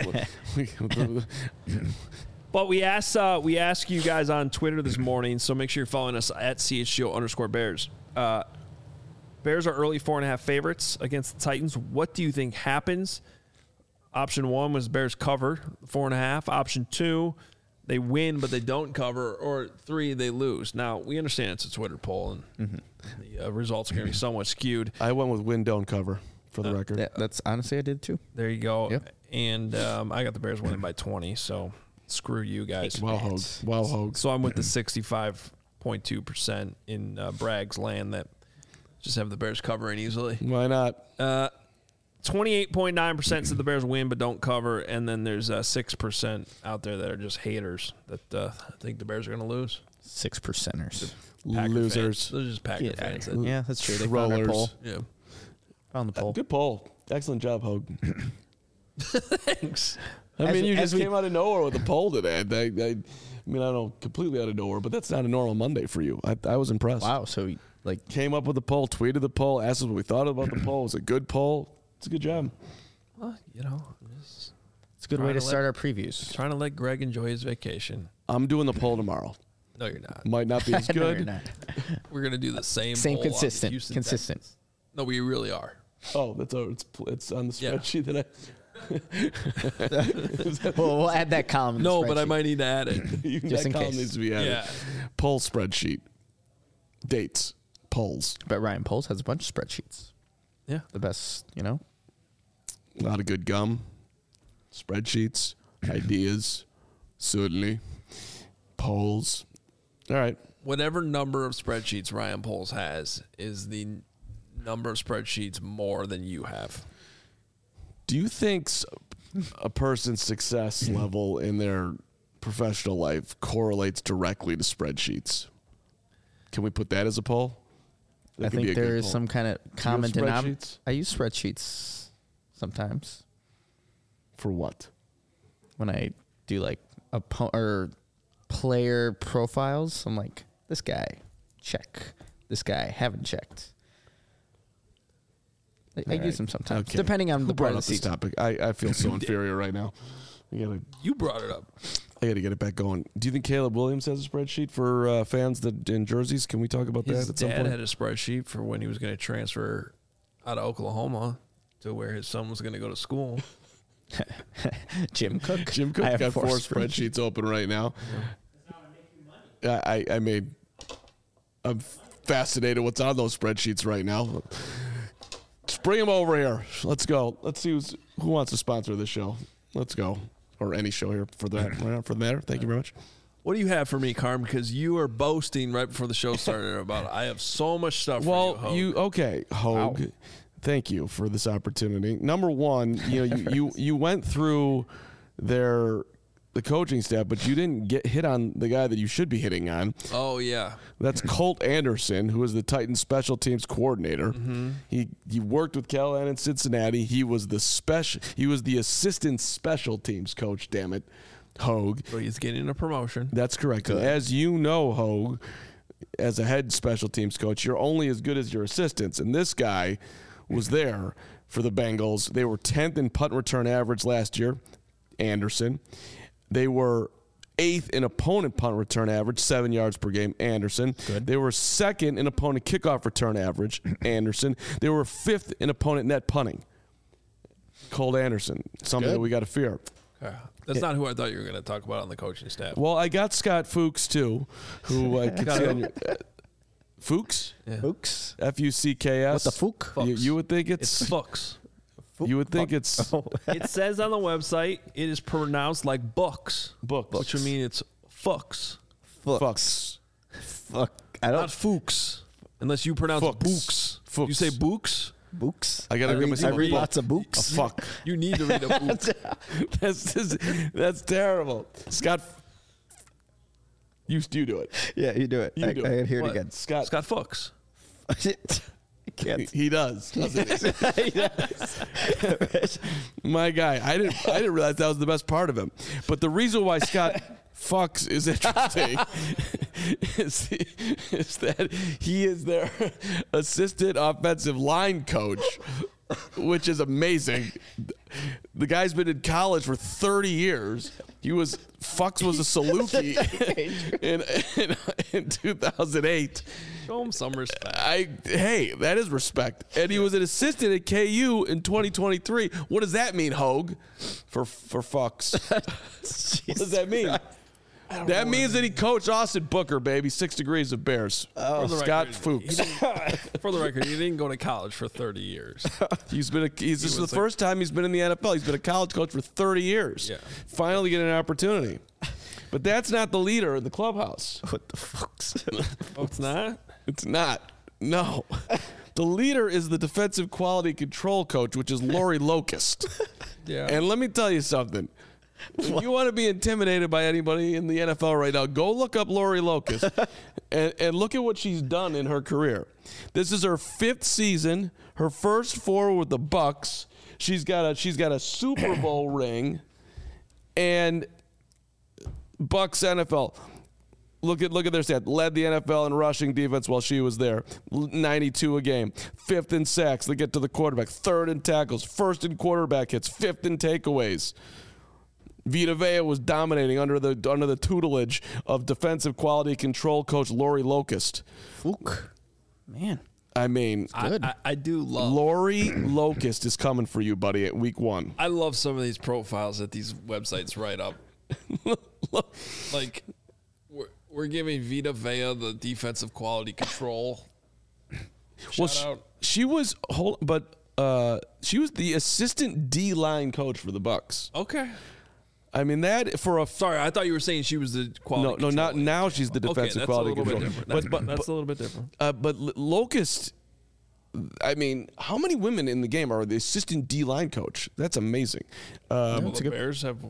But we asked uh, we asked you guys on Twitter this morning, so make sure you're following us at C H G O underscore Bears. Uh, Bears are early four and a half favorites against the Titans. What do you think happens? Option one was Bears cover four and a half. Option two, they win but they don't cover. Or three, they lose. Now we understand it's a Twitter poll and mm-hmm. the uh, results are going to be somewhat skewed. I went with win, don't cover for the uh, record. Yeah, that's honestly I did too. There you go. Yep. And um, I got the Bears winning by twenty. So screw you guys. Wow, Hogue. Wow, Hogue. So I'm with the sixty-five point two percent in uh, Bragg's land that just have the Bears covering easily. Why not? Uh, twenty-eight point nine percent said the Bears win but don't cover, and then there's uh, six percent out there that are just haters that uh, think the Bears are going to lose. Six percenters. Packer Losers. Fans. Those are just Packer Yeah, fans. yeah. yeah, that's true. They Trollers. found our poll. Yeah. Found the poll. Uh, good poll. Excellent job, Hogue. Thanks. I As mean, we- you as just we- came out of nowhere with a poll today. I, I, I mean, I don't know, completely out of nowhere, but that's not a normal Monday for you. I, I was impressed. Wow. So like Came up with the poll, tweeted the poll, asked us what we thought about the poll. It was a good poll. It's a good job. Well, you know, just it's a good Trying way to to start let- our previews. trying to let Greg enjoy his vacation. I'm doing the poll tomorrow. No, you're not. Might not be as No, you're good. not. We're going to do the same Same poll on the consistent. Houston Consistent. Texans. No, we really are. Oh, that's oh, it's it's on the Yeah. spreadsheet that I. Well, we'll add that column. In the No, but I spreadsheet. might need to add it. You, Just that in column case. needs to be added. Yeah. Poll spreadsheet. Dates. Polls. But Ryan Poles has a bunch of spreadsheets. Yeah. The best, you know. A lot of good gum. Spreadsheets. Ideas. Certainly. Polls. All right. Whatever number of spreadsheets Ryan Poles has is the n- number of spreadsheets more than you have. Do you think s- a person's success level in their professional life correlates directly to spreadsheets? Can we put that as a poll? That I could be think a good there is poll. some kind of you have common denominator. spreadsheets? I use spreadsheets sometimes For what? when I do like a po- or player profiles. I'm like, this guy, check. This guy, haven't checked. I, I All use right. them sometimes, Okay. depending on Who the part brought of up the this season. topic? I, I feel so inferior right now. I gotta You brought it up. I gotta get it back going. Do you think Caleb Williams has a spreadsheet for uh, fans that in jerseys? Can we talk about His that at some dad point? had a spreadsheet for when he was going to transfer out of Oklahoma to where his son was going to go to school. Jim Cook. Jim Cook I have got four, spreadsheets. spreadsheets open right now. I, I I made. I'm fascinated what's on those spreadsheets right now. Just bring them over here. Let's go. Let's see who's, who wants to sponsor this show. Let's go, or any show here for that for the matter. Thank you very much. What do you have for me, Carm? Because you were boasting right before the show started about I have so much stuff Well, for you, you Hogue. okay, Hogue? Wow. Thank you for this opportunity. Number one, you know, you, you you went through their the coaching staff, but you didn't get hit on the guy that you should be hitting on. Oh, yeah. That's Colt Anderson, who is the Titans special teams coordinator. Mm-hmm. He he worked with Callahan in Cincinnati. He was the special. He was the assistant special teams coach. Damn it, Hogue. So he's getting a promotion. That's correct. And as you know, Hogue, as a head special teams coach, you're only as good as your assistants. And this guy was there for the Bengals. They were tenth in punt return average last year, Anderson. They were eighth in opponent punt return average, seven yards per game, Anderson. Good. They were second in opponent kickoff return average, Anderson. They were fifth in opponent net punting, Colt Anderson, something Good. that we got to fear. Okay. That's not who I thought you were going to talk about on the coaching staff. Well, I got Scott Fuchs, too, who I could see on your... Uh, Fuchs? Yeah. Fuchs. F U C K S. What the fuck? You, you would think It's it's... Fuchs. you would think it's It says on the website it is pronounced like books, books. which would mean it's Fuchs, Fucks. Fuck. I not don't. Fuchs, unless you pronounce Fuchs. books. Fuchs. You say books. Books. I gotta I give read, myself I a read book. lots of A books. fuck. You need to read a book. that's just, that's terrible. Scott, you you do it. Yeah, you do it. You I, do I it. can hear What? it again. Scott, Scott Fuchs. I he, can't. he does. Doesn't he? My guy, I didn't I didn't realize that was the best part of him. But the reason why Scott Fuchs is interesting is, is that he is their assistant offensive line coach, which is amazing. The guy's been in college for thirty years, He was Fuchs was a Saluki in, in in two thousand eight. Show him some respect. I hey, that is respect. And he was an assistant at K U in twenty twenty-three. What does that mean, Hogue? For for Fuchs. What does that mean? That means that he coached Austin Booker, baby. Six degrees of Bears. For the Scott record, Fuchs. he didn't- For the record, he didn't go to college for thirty years. He's been a, he's this is the was like- first time he's been in the N F L. He's been a college coach for thirty years. Yeah. Finally getting an opportunity. But that's not the leader in the clubhouse. What the fuck's? Oh, it's not? It's not. No. The leader is the defensive quality control coach, which is Lori Locust. Yeah. And let me tell you something. If you want to be intimidated by anybody in the N F L right now, go look up Lori Locust and, and look at what she's done in her career. This is her fifth season, her first four with the Bucks. She's got a she's got a Super Bowl ring, and Bucks N F L. Look at look at their stat. Led the N F L in rushing defense while she was there. ninety-two a game. Fifth in sacks. They get to the quarterback. Third in tackles. First in quarterback hits. Fifth in takeaways. Vita Vea was dominating under the under the tutelage of defensive quality control coach Lori Locust. Fuck. Man. I mean, I, Good. I, I do love. Lori Locust is coming for you, buddy, at week one. I love some of these profiles that these websites write up. Like, we're, we're giving Vita Vea the defensive quality control. Shout Well, she, out. she was hold, but uh, she was the assistant D line coach for the Bucks. Okay. I mean that for a Sorry, I thought you were saying she was the quality. no no not control. now she's the Okay, defensive that's quality a little control. bit different. But That's, but, that's but, a little bit different. uh, but L- Locust. I mean, how many women in the game are the assistant D line coach? That's amazing. Um, Well, That's a the good- Bears have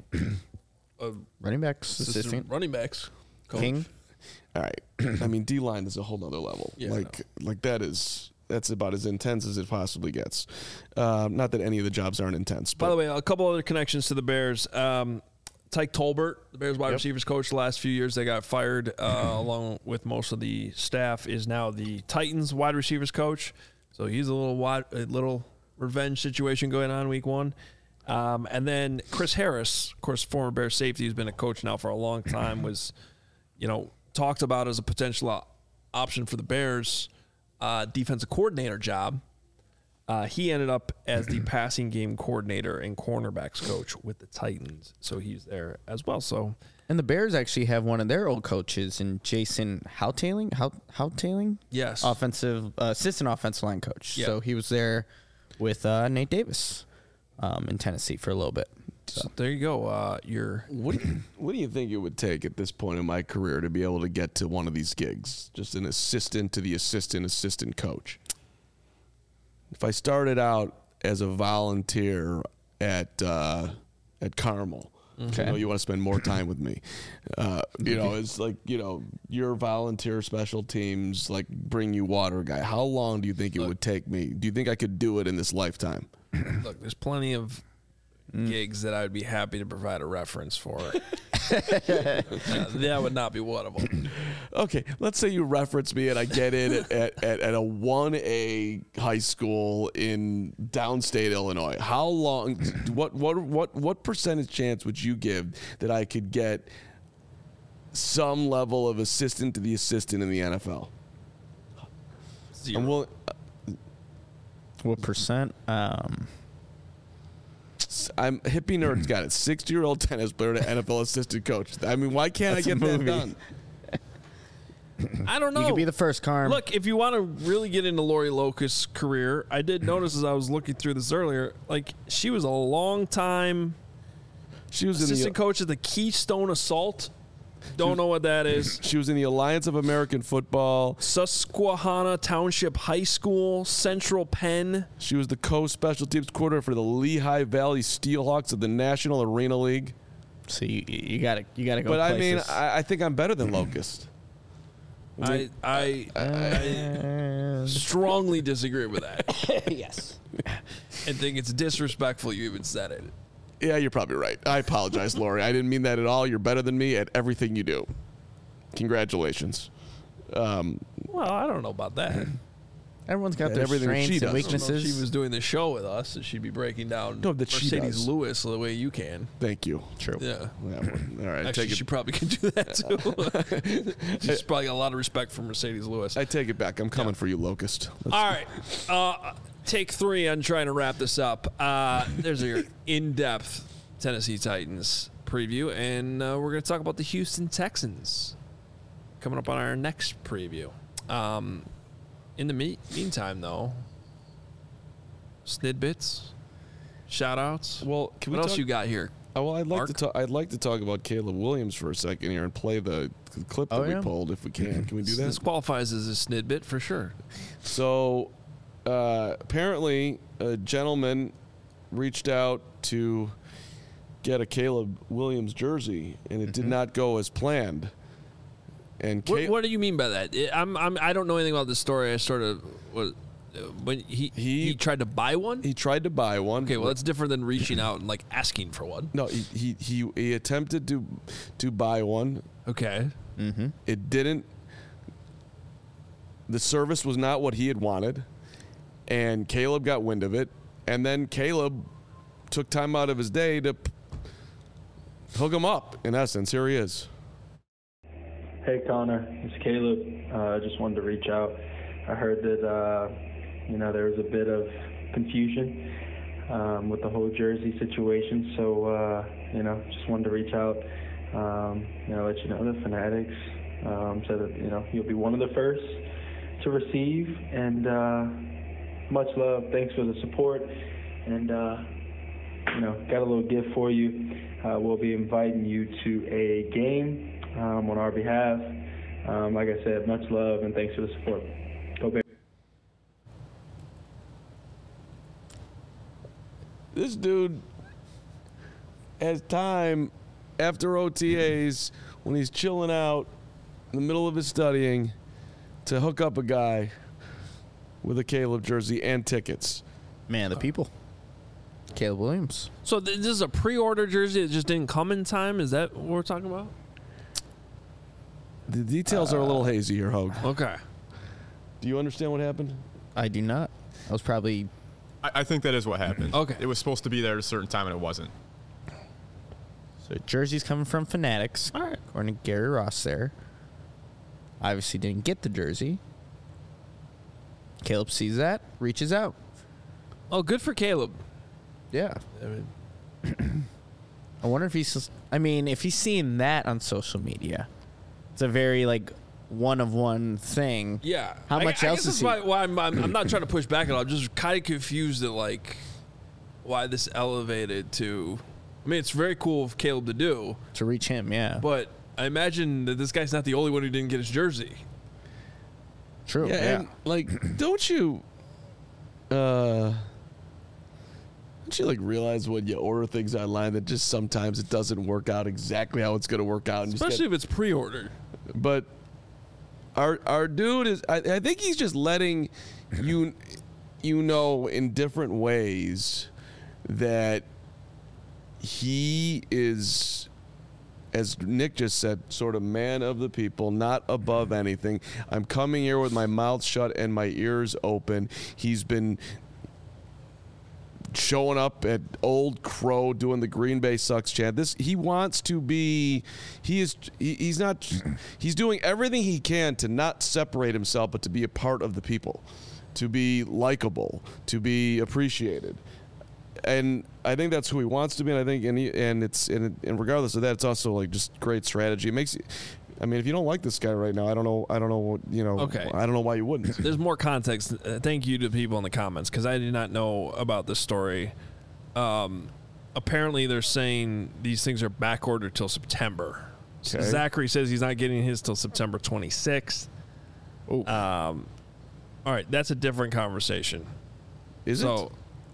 a Running backs, assistant assistant. running backs coach. King. All right. I mean, D line is a whole nother level. Yeah, like, like that is that's about as intense as it possibly gets. Um, not that any of the jobs aren't intense. But By the way, a couple other connections to the Bears. Um, Tyke Tolbert, the Bears wide Yep. receivers coach the last few years, they got fired uh, along with most of the staff, is now the Titans wide receivers coach. So he's a little wide, a little revenge situation going on week one. Um, and then Chris Harris, of course, former Bears safety, who's been a coach now for a long time, was, you know, talked about as a potential uh, option for the Bears uh, defensive coordinator job. Uh, he ended up as the passing game coordinator and cornerbacks coach with the Titans, so he's there as well. So And the Bears actually have one of their old coaches in Jason Houtailing. How Houtailing? yes, Offensive uh, assistant offensive line coach. Yeah. So he was there with uh, Nate Davis um, in Tennessee for a little bit. so there you go. Uh, your what do you, what do you think it would take at this point in my career to be able to get to one of these gigs? Just an assistant to the assistant assistant coach. If I started out as a volunteer at uh, at Carmel, Okay. you know, you want to spend more time with me. Uh, you know, it's like, you know, your volunteer special teams, like bring you water guy. How long do you think it would take me? Do you think I could do it in this lifetime? look, there's plenty of gigs that I would be happy to provide a reference for. uh, that would not be one of them. Okay, let's say you reference me and I get in at, at, at, at a one A high school in downstate Illinois. How long, what, what, what, what percentage chance would you give that I could get some level of assistant to the assistant in the N F L? Zero. I'm willing, What percent? Um, I'm hippie nerd's got it. sixty-year-old tennis player to N F L assistant coach. I mean, why can't That's I a get that movie. done? I don't know. you could be the first, Carm. Look, if you want to really get into Lori Locust's career, I did notice as I was looking through this earlier, like she was a long time She was in the assistant coach at the Keystone Assault. Don't know what that is. she was in the Alliance of American Football. Susquehanna Township High School, Central Penn. She was the co-special teams coordinator for the Lehigh Valley Steelhawks of the National Arena League. So you you gotta you gotta go. But I mean, places. I, I think I'm better than Locust. I I, I strongly disagree with that yes. and think it's disrespectful you even said it. Yeah, you're probably right. I apologize, Lori. I didn't mean that at all. You're better than me at everything you do. Congratulations. Um, Well, I don't know about that. Everyone's got And their everything that she strengths and does. I don't know if weaknesses. she was doing the show with us, that she'd be breaking down No, that she does. Mercedes Lewis the way you can. Thank you. True. Yeah. Yeah, well, all right, Actually, take it. she probably can do that too. She's probably got a lot of respect for Mercedes Lewis. I take it back. I'm coming for you, Locust. Let's- All right. Uh, take three on trying to wrap this up. Uh, there's your in-depth Tennessee Titans preview, and uh, we're going to talk about the Houston Texans coming up on our next preview. Um, in the me- meantime, though, snidbits, shout-outs. Well, can we what else talk- you got here? Oh, well, I'd like Mark? to talk. I'd like to talk about Caleb Williams for a second here and play the clip that Oh, we yeah? pulled, if we can. Can we do that? This qualifies as a snidbit for sure. So, uh, apparently, a gentleman reached out to get a Caleb Williams jersey, and it did not go as planned. And What, Ca- what do you mean by that? I- I'm, I'm, I don't know anything about this story. I sort of was, when he, He- he tried to buy one. he tried to buy one. Okay, well that's different than reaching out and like asking for one. No, he, he he he attempted to to buy one. Okay. It didn't. The service was not what he had wanted, and Caleb got wind of it, and then Caleb took time out of his day to p- hook him up. In essence, here he is. Hey Connor, it's Caleb. I uh, just wanted to reach out. I heard that uh, you know there was a bit of confusion um, with the whole jersey situation, so uh, you know just wanted to reach out. Um, you know, let you know the Fanatics um, said that you know you'll be one of the first to receive, and uh, much love. Thanks for the support, and uh, you know got a little gift for you. Uh, we'll be inviting you to a game. Um, on our behalf. Um, like I said, much love and thanks for the support. Go Bears. This dude has time after O T As when he's chilling out in the middle of his studying to hook up a guy with a Caleb jersey and tickets. Man, the people. Caleb Williams. So th- this is a pre-order jersey that just didn't come in time. Is that what we're talking about? The details are a little hazy here, Hogue. Okay. Do you understand what happened? I do not. I was probably I, I think that is what happened. Okay. It was supposed to be there at a certain time and it wasn't. so jerseys coming from Fanatics. All right. According to Gary Ross there. Obviously didn't get the jersey. Caleb sees that, reaches out. Oh, good for Caleb. Yeah. I mean, I wonder if he's I mean, if he's seeing that on social media. It's a very like one of one thing. yeah. How I- much I else guess is that's he? why, why I'm, I'm, I'm not trying to push back at all. I'm just kind of confused at like why this elevated to. I mean, it's very cool of Caleb to do, To reach him, yeah. but I imagine that this guy's not the only one who didn't get his jersey. True. Yeah, Yeah. and like, don't you, uh, don't you like realize when you order things online that just sometimes it doesn't work out exactly how it's going to work out, and you just Especially get- if it's pre-ordered. but our our dude is, I, I think he's just letting you, you know, in different ways that he is, as Nick just said, sort of man of the people, not above anything. I'm coming here with my mouth shut and my ears open. He's been showing up at Old Crow doing the Green Bay sucks chant. This he wants to be. He is. He, he's not. He's doing everything he can to not separate himself, but to be a part of the people, to be likable, to be appreciated. And I think that's who he wants to be. And I think, and he, and it's, and, and regardless of that, it's also like just great strategy. It makes you. I mean, if you don't like this guy right now, I don't know. I don't know. What, you know. Okay. I don't know why you wouldn't. There's more context. Uh, thank you to people in the comments because I did not know about this story. Um, apparently, they're saying these things are back ordered till September. So Okay. Zachary says he's not getting his till September twenty-sixth. Oh, Um, all right, that's a different conversation. is so it?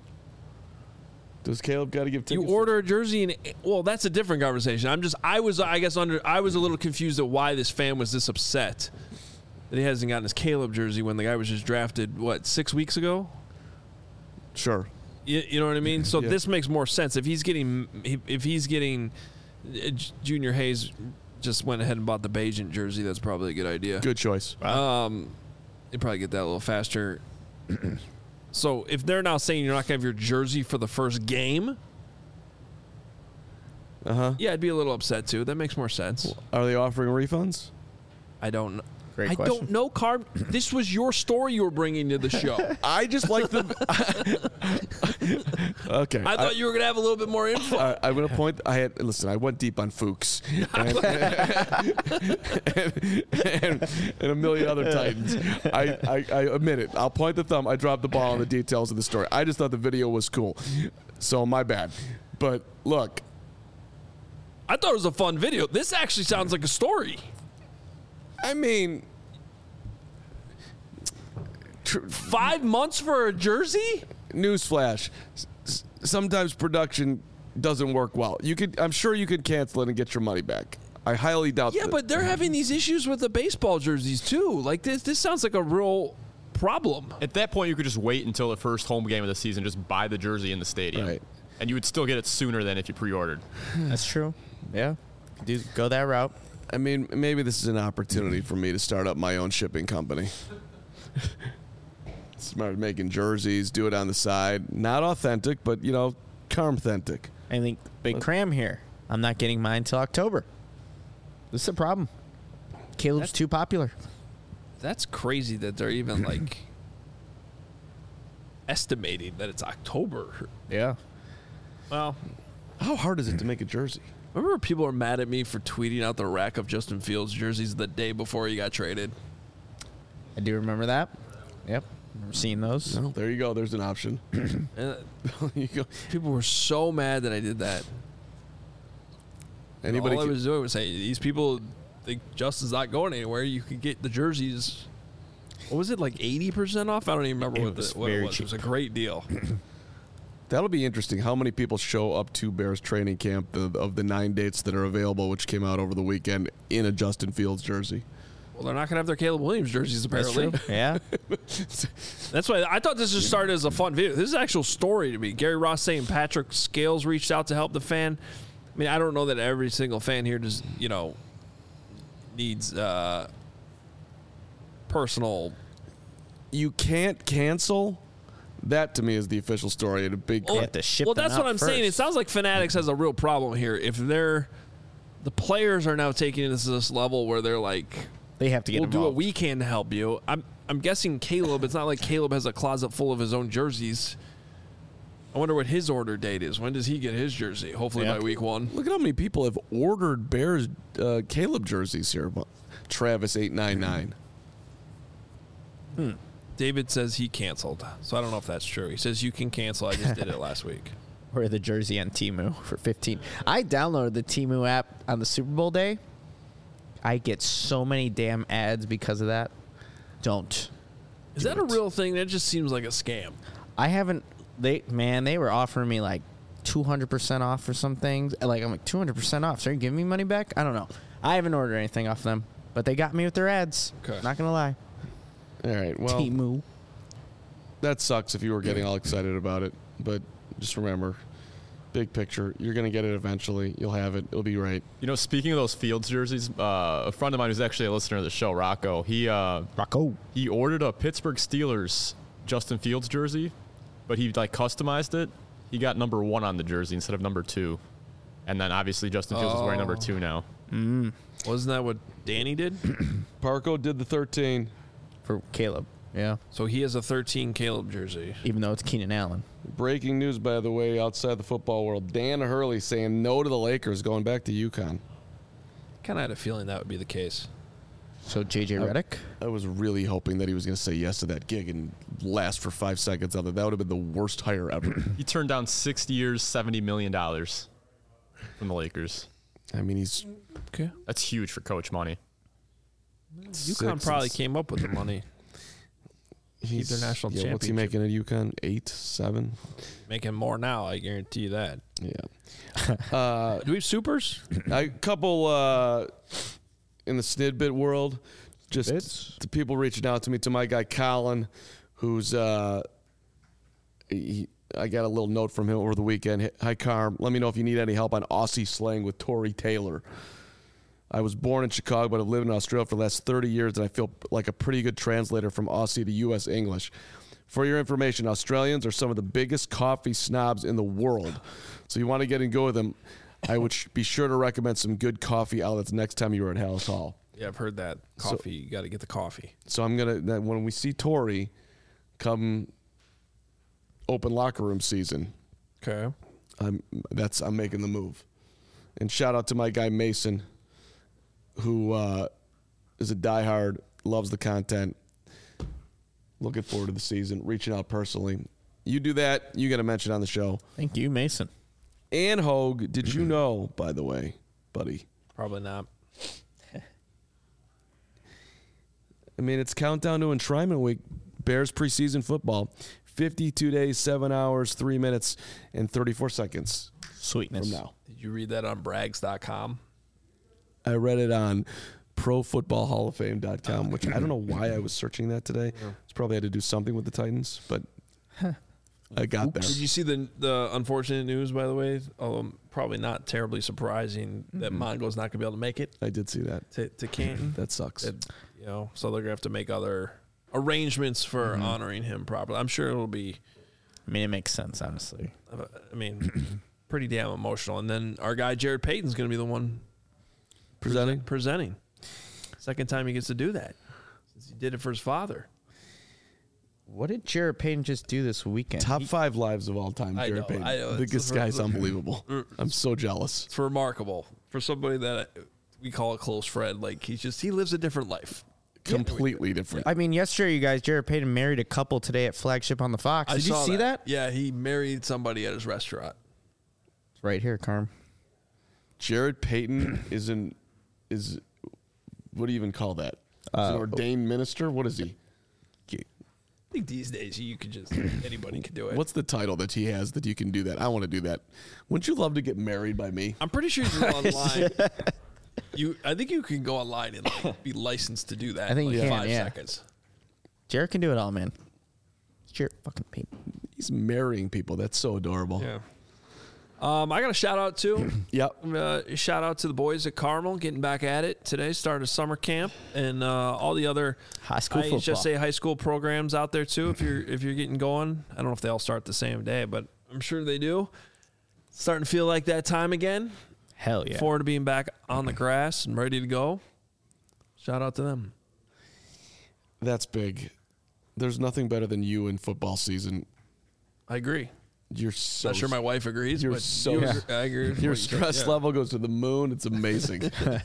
Does Caleb got to give you tickets? order a jersey and well, that's a different conversation. I'm just I was I guess under I was a little confused at why this fan was this upset that he hasn't gotten his Caleb jersey when the guy was just drafted what six weeks ago. Sure. You, you know what I mean? So Yeah. this makes more sense if he's getting if he's getting uh, Junior Hayes just went ahead and bought the Bajent jersey. That's probably a good idea. Good choice. Um, you probably get that a little faster. So if they're now saying you're not going to have your jersey for the first game, Uh-huh. yeah, I'd be a little upset too. That makes more sense. Are they offering refunds? I don't know. Great I question. don't know, Carb. This was your story you were bringing to the show. I just like the. Okay. I thought you were going to have a little bit more info. I, I'm going to point. I had listen. I went deep on Fuchs and, and, and, and a million other Titans. I, I, I admit it. I'll point the thumb. I dropped the ball on the details of the story. I just thought the video was cool, so my bad. But look, I thought it was a fun video. This actually sounds like a story. I mean, tr- Five months for a jersey? newsflash: s- sometimes production doesn't work well. You could. I'm sure you could cancel it and get your money back. I highly doubt. Yeah, that. but they're having these issues with the baseball jerseys too. Like this, this sounds like a real problem. At that point, you could just wait until the first home game of the season, just buy the jersey in the stadium. Right. And you would still get it sooner than if you pre-ordered. That's true. Yeah. Do go that route. I mean, maybe this is an opportunity for me to start up my own shipping company. Start making jerseys, do it on the side. Not authentic, but, you know, carm-authentic. I think Big Cram here. I'm not getting mine till October. This is a problem. Caleb's too popular. That's crazy that they're even like estimating that it's October. Yeah. Well, How hard is it to make a jersey? remember people were mad at me for tweeting out the rack of Justin Fields jerseys the day before he got traded. I do remember that. Yep. Remember seeing those. Well, there you go. There's an option. And you go. people were so mad that I did that. Anybody? All I can- was doing was saying, these people think Justin's not going anywhere. You could get the jerseys. What was it, like eighty percent off? I don't even remember It what, was the, what it very was. It was a cheap. great deal. That'll be interesting. How many people show up to Bears training camp the, of the nine dates that are available, which came out over the weekend, in a Justin Fields jersey? Well, they're not going to have their Caleb Williams jerseys, That's apparently. true. Yeah. That's why I thought this just started as a fun video. This is an actual story to me. Gary Ross saying Patrick Scales reached out to help the fan. I mean, I don't know that every single fan here just, you know, needs uh, personal. You can't cancel. That to me is the official story. And a big. You have to ship well, them that's out what I'm saying. It first. sounds like Fanatics has a real problem here. If they're, the players are now taking this to this level where they're like, They have to get we'll do what involved. we can to help you. I'm I'm guessing Caleb. It's not like Caleb has a closet full of his own jerseys. I wonder what his order date is. When does he get his jersey? Hopefully Yeah. by week one. Look at how many people have ordered Bears uh, Caleb jerseys here. Travis eight nine nine. David says he canceled, so I don't know if that's true. He says you can cancel. I just did it last week. Or the jersey on Temu for fifteen. I downloaded the Temu app on the Super Bowl day. I get so many damn ads because of that. Don't. Is Do that a it. real thing? That just seems like a scam. I haven't. They man, they were offering me like two hundred percent off for some things. Like I'm like two hundred percent off. So are you giving me money back? I don't know. I haven't ordered anything off them, but they got me with their ads. Okay. Not gonna lie. All right. Well, Temu. that sucks if you were getting all excited about it. But just remember, big picture, you're going to get it eventually. You'll have it. It'll be right. You know, speaking of those Fields jerseys, uh, a friend of mine who's actually a listener of the show, Rocco, he uh, Rocco. he ordered a Pittsburgh Steelers Justin Fields jersey, but he like customized it. He got number one on the jersey instead of number two, and then obviously Justin Fields is wearing number two now. Wasn't that what Danny did? Parco did the thirteen. For Caleb. Yeah. So he has a thirteen Caleb jersey. Even though it's Keenan Allen. Breaking news, by the way, outside the football world. Dan Hurley saying no to the Lakers going back to UConn. Kind of had a feeling that would be the case. So J J Redick. I was really hoping that he was going to say yes to that gig and last for five seconds of it. That would have been the worst hire ever. He turned down six years, seventy million dollars from the Lakers. I mean, he's Okay. That's huge for coach money. UConn six probably and- came up with the money. he's, their national yeah, what's he championship. making at UConn? Eight, seven. Making more now, I guarantee you that. Yeah. uh, Do we have supers? a couple uh, in the snidbit world, just Bits? the people reaching out to me, to my guy Colin, who's uh, he, I got a little note from him over the weekend. Hi, Carm. Let me know if you need any help on Aussie slang with Tory Taylor. I was born in Chicago, but I've lived in Australia for the last thirty years, and I feel like a pretty good translator from Aussie to U S English. For your information, Australians are some of the biggest coffee snobs in the world. So you want to get and go with them, I would sh- be sure to recommend some good coffee outlets next time you were at Hallis Hall. Yeah, I've heard that. Coffee, you got to get the coffee. So I'm going to, when we see Tori come open locker room season, Okay. I'm that's I'm making the move. And shout out to my guy Mason, who uh, is a diehard, loves the content. Looking forward to the season, reaching out personally. You do that, you get a mention on the show. Thank you, Mason. And Hogue, did you know, by the way, buddy? Probably not. I mean, it's countdown to enshrinement week. Bears preseason football. fifty-two days, seven hours, three minutes, and thirty-four seconds Sweetness. from now. Did you read that on Brags dot com? I read it on pro football hall of fame dot com, which I don't know why I was searching that today. It's probably had to do something with the Titans, but I got there. Did you see the the unfortunate news, by the way? Um, probably not terribly surprising that Mongo's not going to be able to make it I did see that. to, to Canton. That sucks. That, you know, so they're going to have to make other arrangements for honoring him properly. I'm sure it'll be, I mean, it makes sense, honestly. uh, I mean, pretty damn emotional. And then our guy Jared Payton's going to be the one Presenting? presenting. Second time he gets to do that since he did it for his father. What did Jared Payton just do this weekend? Top five lives of all time, I Jared know, Payton. I know. The- It's This the- guy's the- unbelievable. I'm so jealous. It's remarkable for somebody that we call a close friend. Like he's just he lives a different life. Completely different. I mean, yesterday, you guys, Jared Payton married a couple today at Flagship on the Fox. I Did you saw see that? Yeah, he married somebody at his restaurant. It's right here, Carm. Jared Payton is an is what do you even call that? Is Uh, an ordained minister? What is he? I think these days you could just anybody could do it. What's the title that he has that you can do that? I want to do that. Wouldn't you love to get married by me? I'm pretty sure you can go online. You, I think you can go online and like, be licensed to do that. I think in you like can, five yeah. seconds. Jared can do it all, man. It's Jared fucking Payton. He's marrying people. That's so adorable. Yeah. Um, I got a shout out too. Yep. Uh, shout out to the boys at Carmel getting back at it today. Started summer camp and uh, all the other High school I football. just say high school programs out there too. If you're if you're getting going, I don't know if they all start the same day, but I'm sure they do. Starting to feel like that time again. Hell yeah. Forward to being back on the grass and ready to go. Shout out to them. That's big. There's nothing better than you in football season. I agree. You're so Not sure my wife agrees. You're but so- you Yeah. agree- I agree. with your what you said, stress yeah. level goes to the moon. It's amazing.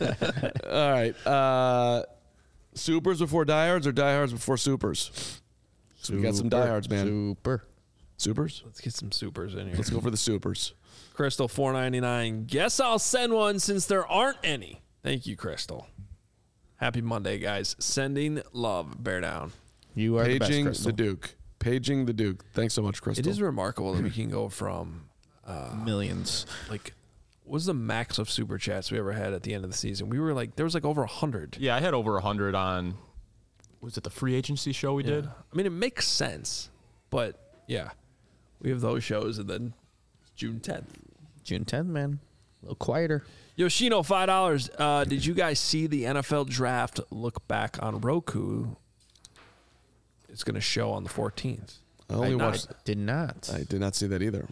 All right. Uh, supers before diehards or diehards before supers? So we got some diehards, man. Super. Supers? Let's get some supers in here. Let's go for the supers. Crystal four ninety-nine. Guess I'll send one since there aren't any. Thank you, Crystal. Happy Monday, guys. Sending love. Bear down. You are the best, Paging Crystal. the Duke. Paging the Duke. Thanks so much, Crystal. It is remarkable that we can go from Millions. like what was the max of super chats we ever had at the end of the season? We were like there was like over a hundred. Yeah, I had over a hundred on. Was it the free agency show we did? I mean, it makes sense, but yeah, we have those shows, and then June tenth. June tenth, man. A little quieter. Yoshino, five dollars. Uh, did you guys see the N F L draft look back on Roku? It's going to show on the fourteenth. I only I- watched. Did not. I did not see that either.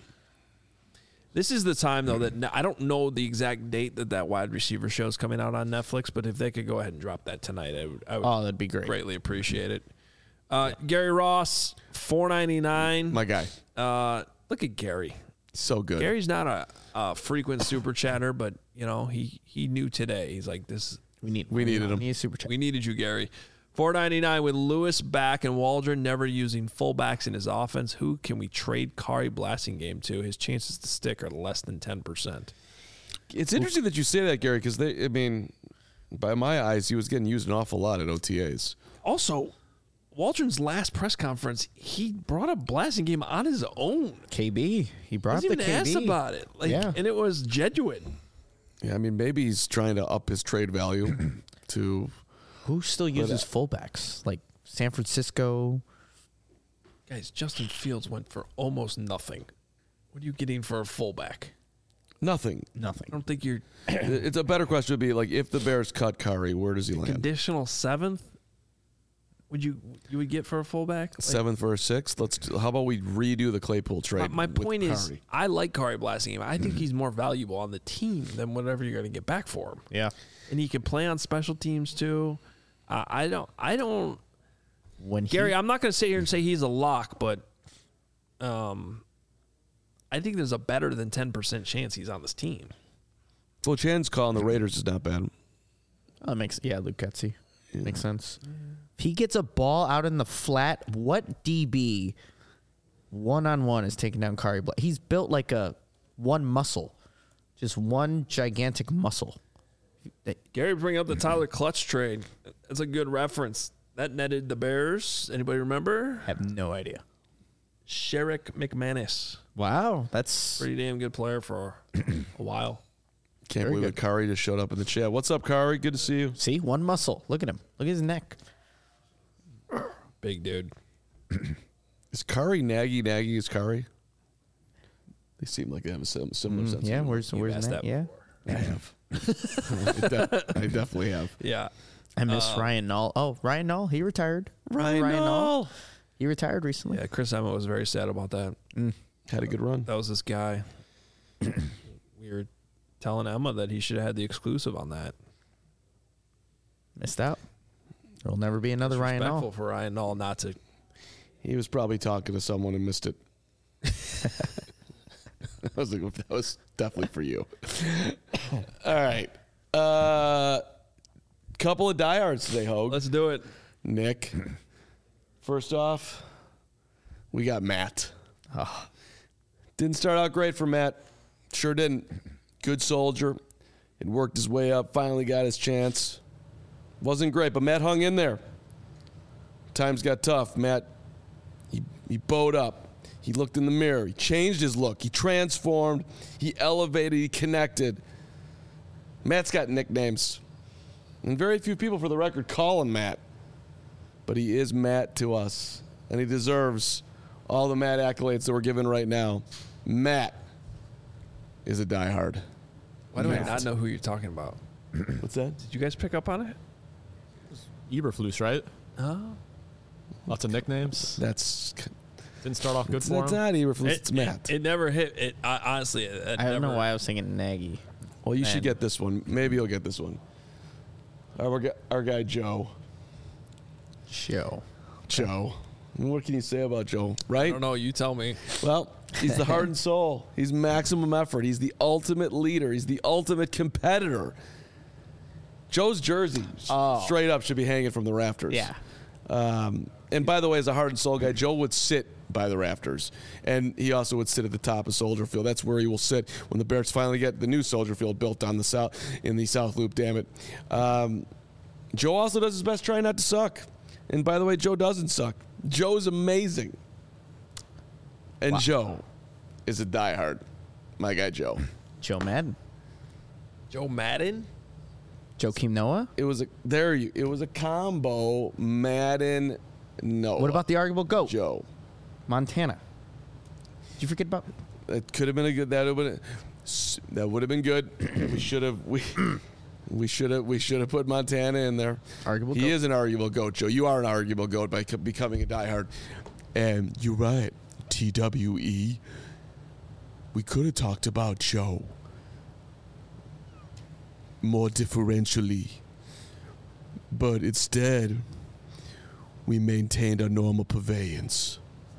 This is the time, though, that I don't know the exact date that that wide receiver show is coming out on Netflix, but if they could go ahead and drop that tonight, I would, I would Oh, that'd be great. greatly appreciate it. Uh, Gary Ross, four ninety-nine. My guy. Uh, look at Gary. So good. Gary's not a, a frequent super chatter, but, you know, he, he knew today. He's like, this We need. We needed him. We need a super chat. we needed you, Gary. four ninety-nine with Lewis back and Waldron never using fullbacks in his offense. Who can we trade Kari Blasingame to? His chances to stick are less than ten percent. It's interesting that you say that, Gary, because they. I mean, by my eyes, he was getting used an awful lot at O T As. Also, Waldron's last press conference, he brought up Blasingame on his own. K B. He brought He up the even K B. asked about it. Like, Yeah. and it was genuine. Yeah, I mean, maybe he's trying to up his trade value to. Who still uses uh, fullbacks? Like San Francisco. Guys, Justin Fields went for almost nothing. What are you getting for a fullback? Nothing. I Nothing. don't think you're It's a better question would be like if the Bears cut Curry, where does he land? conditional seventh. would you you would get for a fullback? Like, Seventh for a sixth. Let's. How about we redo the Claypool my, trade? my with point is, Kari? I like Kari Blasingame. I think he's more valuable on the team than whatever you're going to get back for him. Yeah. And he can play on special teams too. Uh, I don't. I don't. When Gary, he, I'm not going to sit here and say he's a lock, but um, I think there's a better than ten percent chance he's on this team. Well, Chan's calling the Raiders is not bad. oh, makes yeah, Luke Getsy makes sense. If he gets a ball out in the flat, what D B one on one is taking down Kari Black? He's built like a one muscle, just one gigantic muscle. Gary, bring up the Tyler Clutch trade. That's a good reference. That netted the Bears. Anybody remember? I have no idea. Sherrick McManus. Wow, that's Pretty damn good player for a while. Can't Very believe it. Kari just showed up in the chat. What's up, Kari? Good to see you. see one muscle. Look at him. Look at his neck. Big dude. Is Kari Nagy? Nagy is Kari? They seem like they have a sim- similar sense. Mm, Yeah, of where's You've where's asked that? that Yeah, I have. I, de- I definitely have. Yeah. I miss Ryan Nall. Oh, Ryan Nall, he retired. Ryan Nall. He retired recently. Yeah, Chris Emmett was very sad about that. Had a good run. That was this guy. We were telling Emma that he should have had the exclusive on that. Missed out. There'll never be another Ryan Respectful Nall. for Ryan Nall not to. He was probably talking to someone and missed it. I was like, that was definitely for you. All right. Uh, couple of diehards today, Hogue. Let's do it. Nick. First off, we got Matt. Oh, Didn't start out great for Matt. Sure didn't. Good soldier. Had worked his way up. Finally got his chance. Wasn't great, but Matt hung in there. Times got tough. Matt, he, he bowed up. He looked in the mirror. He changed his look. He transformed. He elevated. He connected. Matt's got nicknames. And very few people, for the record, call him Matt. But he is Matt to us. And he deserves all the Matt accolades that we're given right now. Matt is a diehard. Why do I Matt. not know who you're talking about? What's that? Did you guys pick up on it? Eberflus, right? Oh. Lots of nicknames. That's Didn't start off good it's, for it's him. not Eberflus. It, It's Matt. It, it never hit. It I, honestly. It, it I don't never, know why I was thinking Nagy. well, you should Man. get this one. Maybe you'll get this one. Our, gu- our guy Joe. Show. Joe. What can you say about Joe? I Right? don't know. You tell me. Well, he's the heart and soul. He's maximum effort. He's the ultimate leader. He's the ultimate competitor. Joe's jersey, Oh. straight up, should be hanging from the rafters. Yeah. Um, and by the way, as a heart and soul guy, Joe would sit by the rafters. And he also would sit at the top of Soldier Field. That's where he will sit when the Bears finally get the new Soldier Field built on the south in the South Loop, damn it. Um, Joe also does his best trying not to suck. And by the way, Joe doesn't suck. Joe's amazing. And Wow. Joe is a diehard. My guy Joe. Joe Madden. Joe Madden. Joakim Noah. It was a there you it was a combo. Madden, no. What about the arguable GOAT? Joe? Montana. Did you forget about? It could have been a good. That would have been. That would have been good. we should have. We. We should have. We should have put Montana in there. Arguable He GOAT. is an arguable goat, Joe. You are an arguable goat by co- becoming a diehard. And you're right. T W E. We could have talked about Joe more differentially, but instead, we maintained our normal purveyance.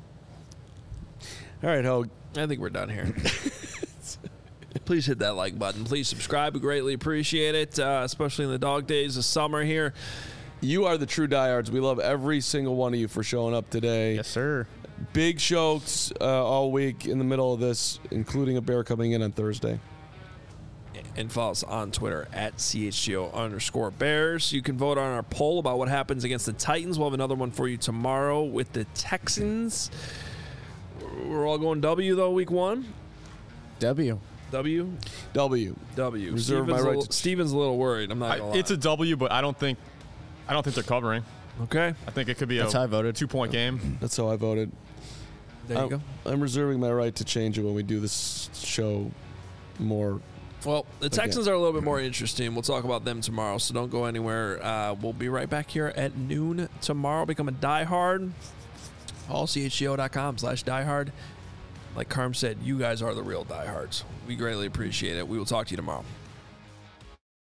All right, Hogue. I think we're done here. Please hit that like button. Please subscribe. We greatly appreciate it, uh, especially in the dog days of summer here. You are the true diehards. We love every single one of you for showing up today. Yes, sir. Big shows uh, all week in the middle of this, including a Bear coming in on Thursday. And follow us on Twitter at C H G O underscore Bears. You can vote on our poll about what happens against the Titans. We'll have another one for you tomorrow with the Texans. We're all going W, though, week one. W. W? W. W. Reserve Steven's, my a right little, to- Steven's a little worried. I'm not I, going to lie. it's a W, but I don't think I don't think they're covering. Okay. I think it could be That's a how I voted. two point game. That's how I voted. There you I'm, go. I'm reserving my right to change it when we do this show more Well, the Texans are a little bit more interesting. We'll talk about them tomorrow, so don't go anywhere. Uh, we'll be right back here at noon tomorrow. Become a diehard. all c h g o dot com slash diehard. Like Carm said, you guys are the real diehards. We greatly appreciate it. We will talk to you tomorrow.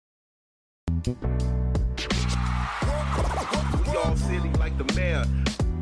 We all silly like the mayor.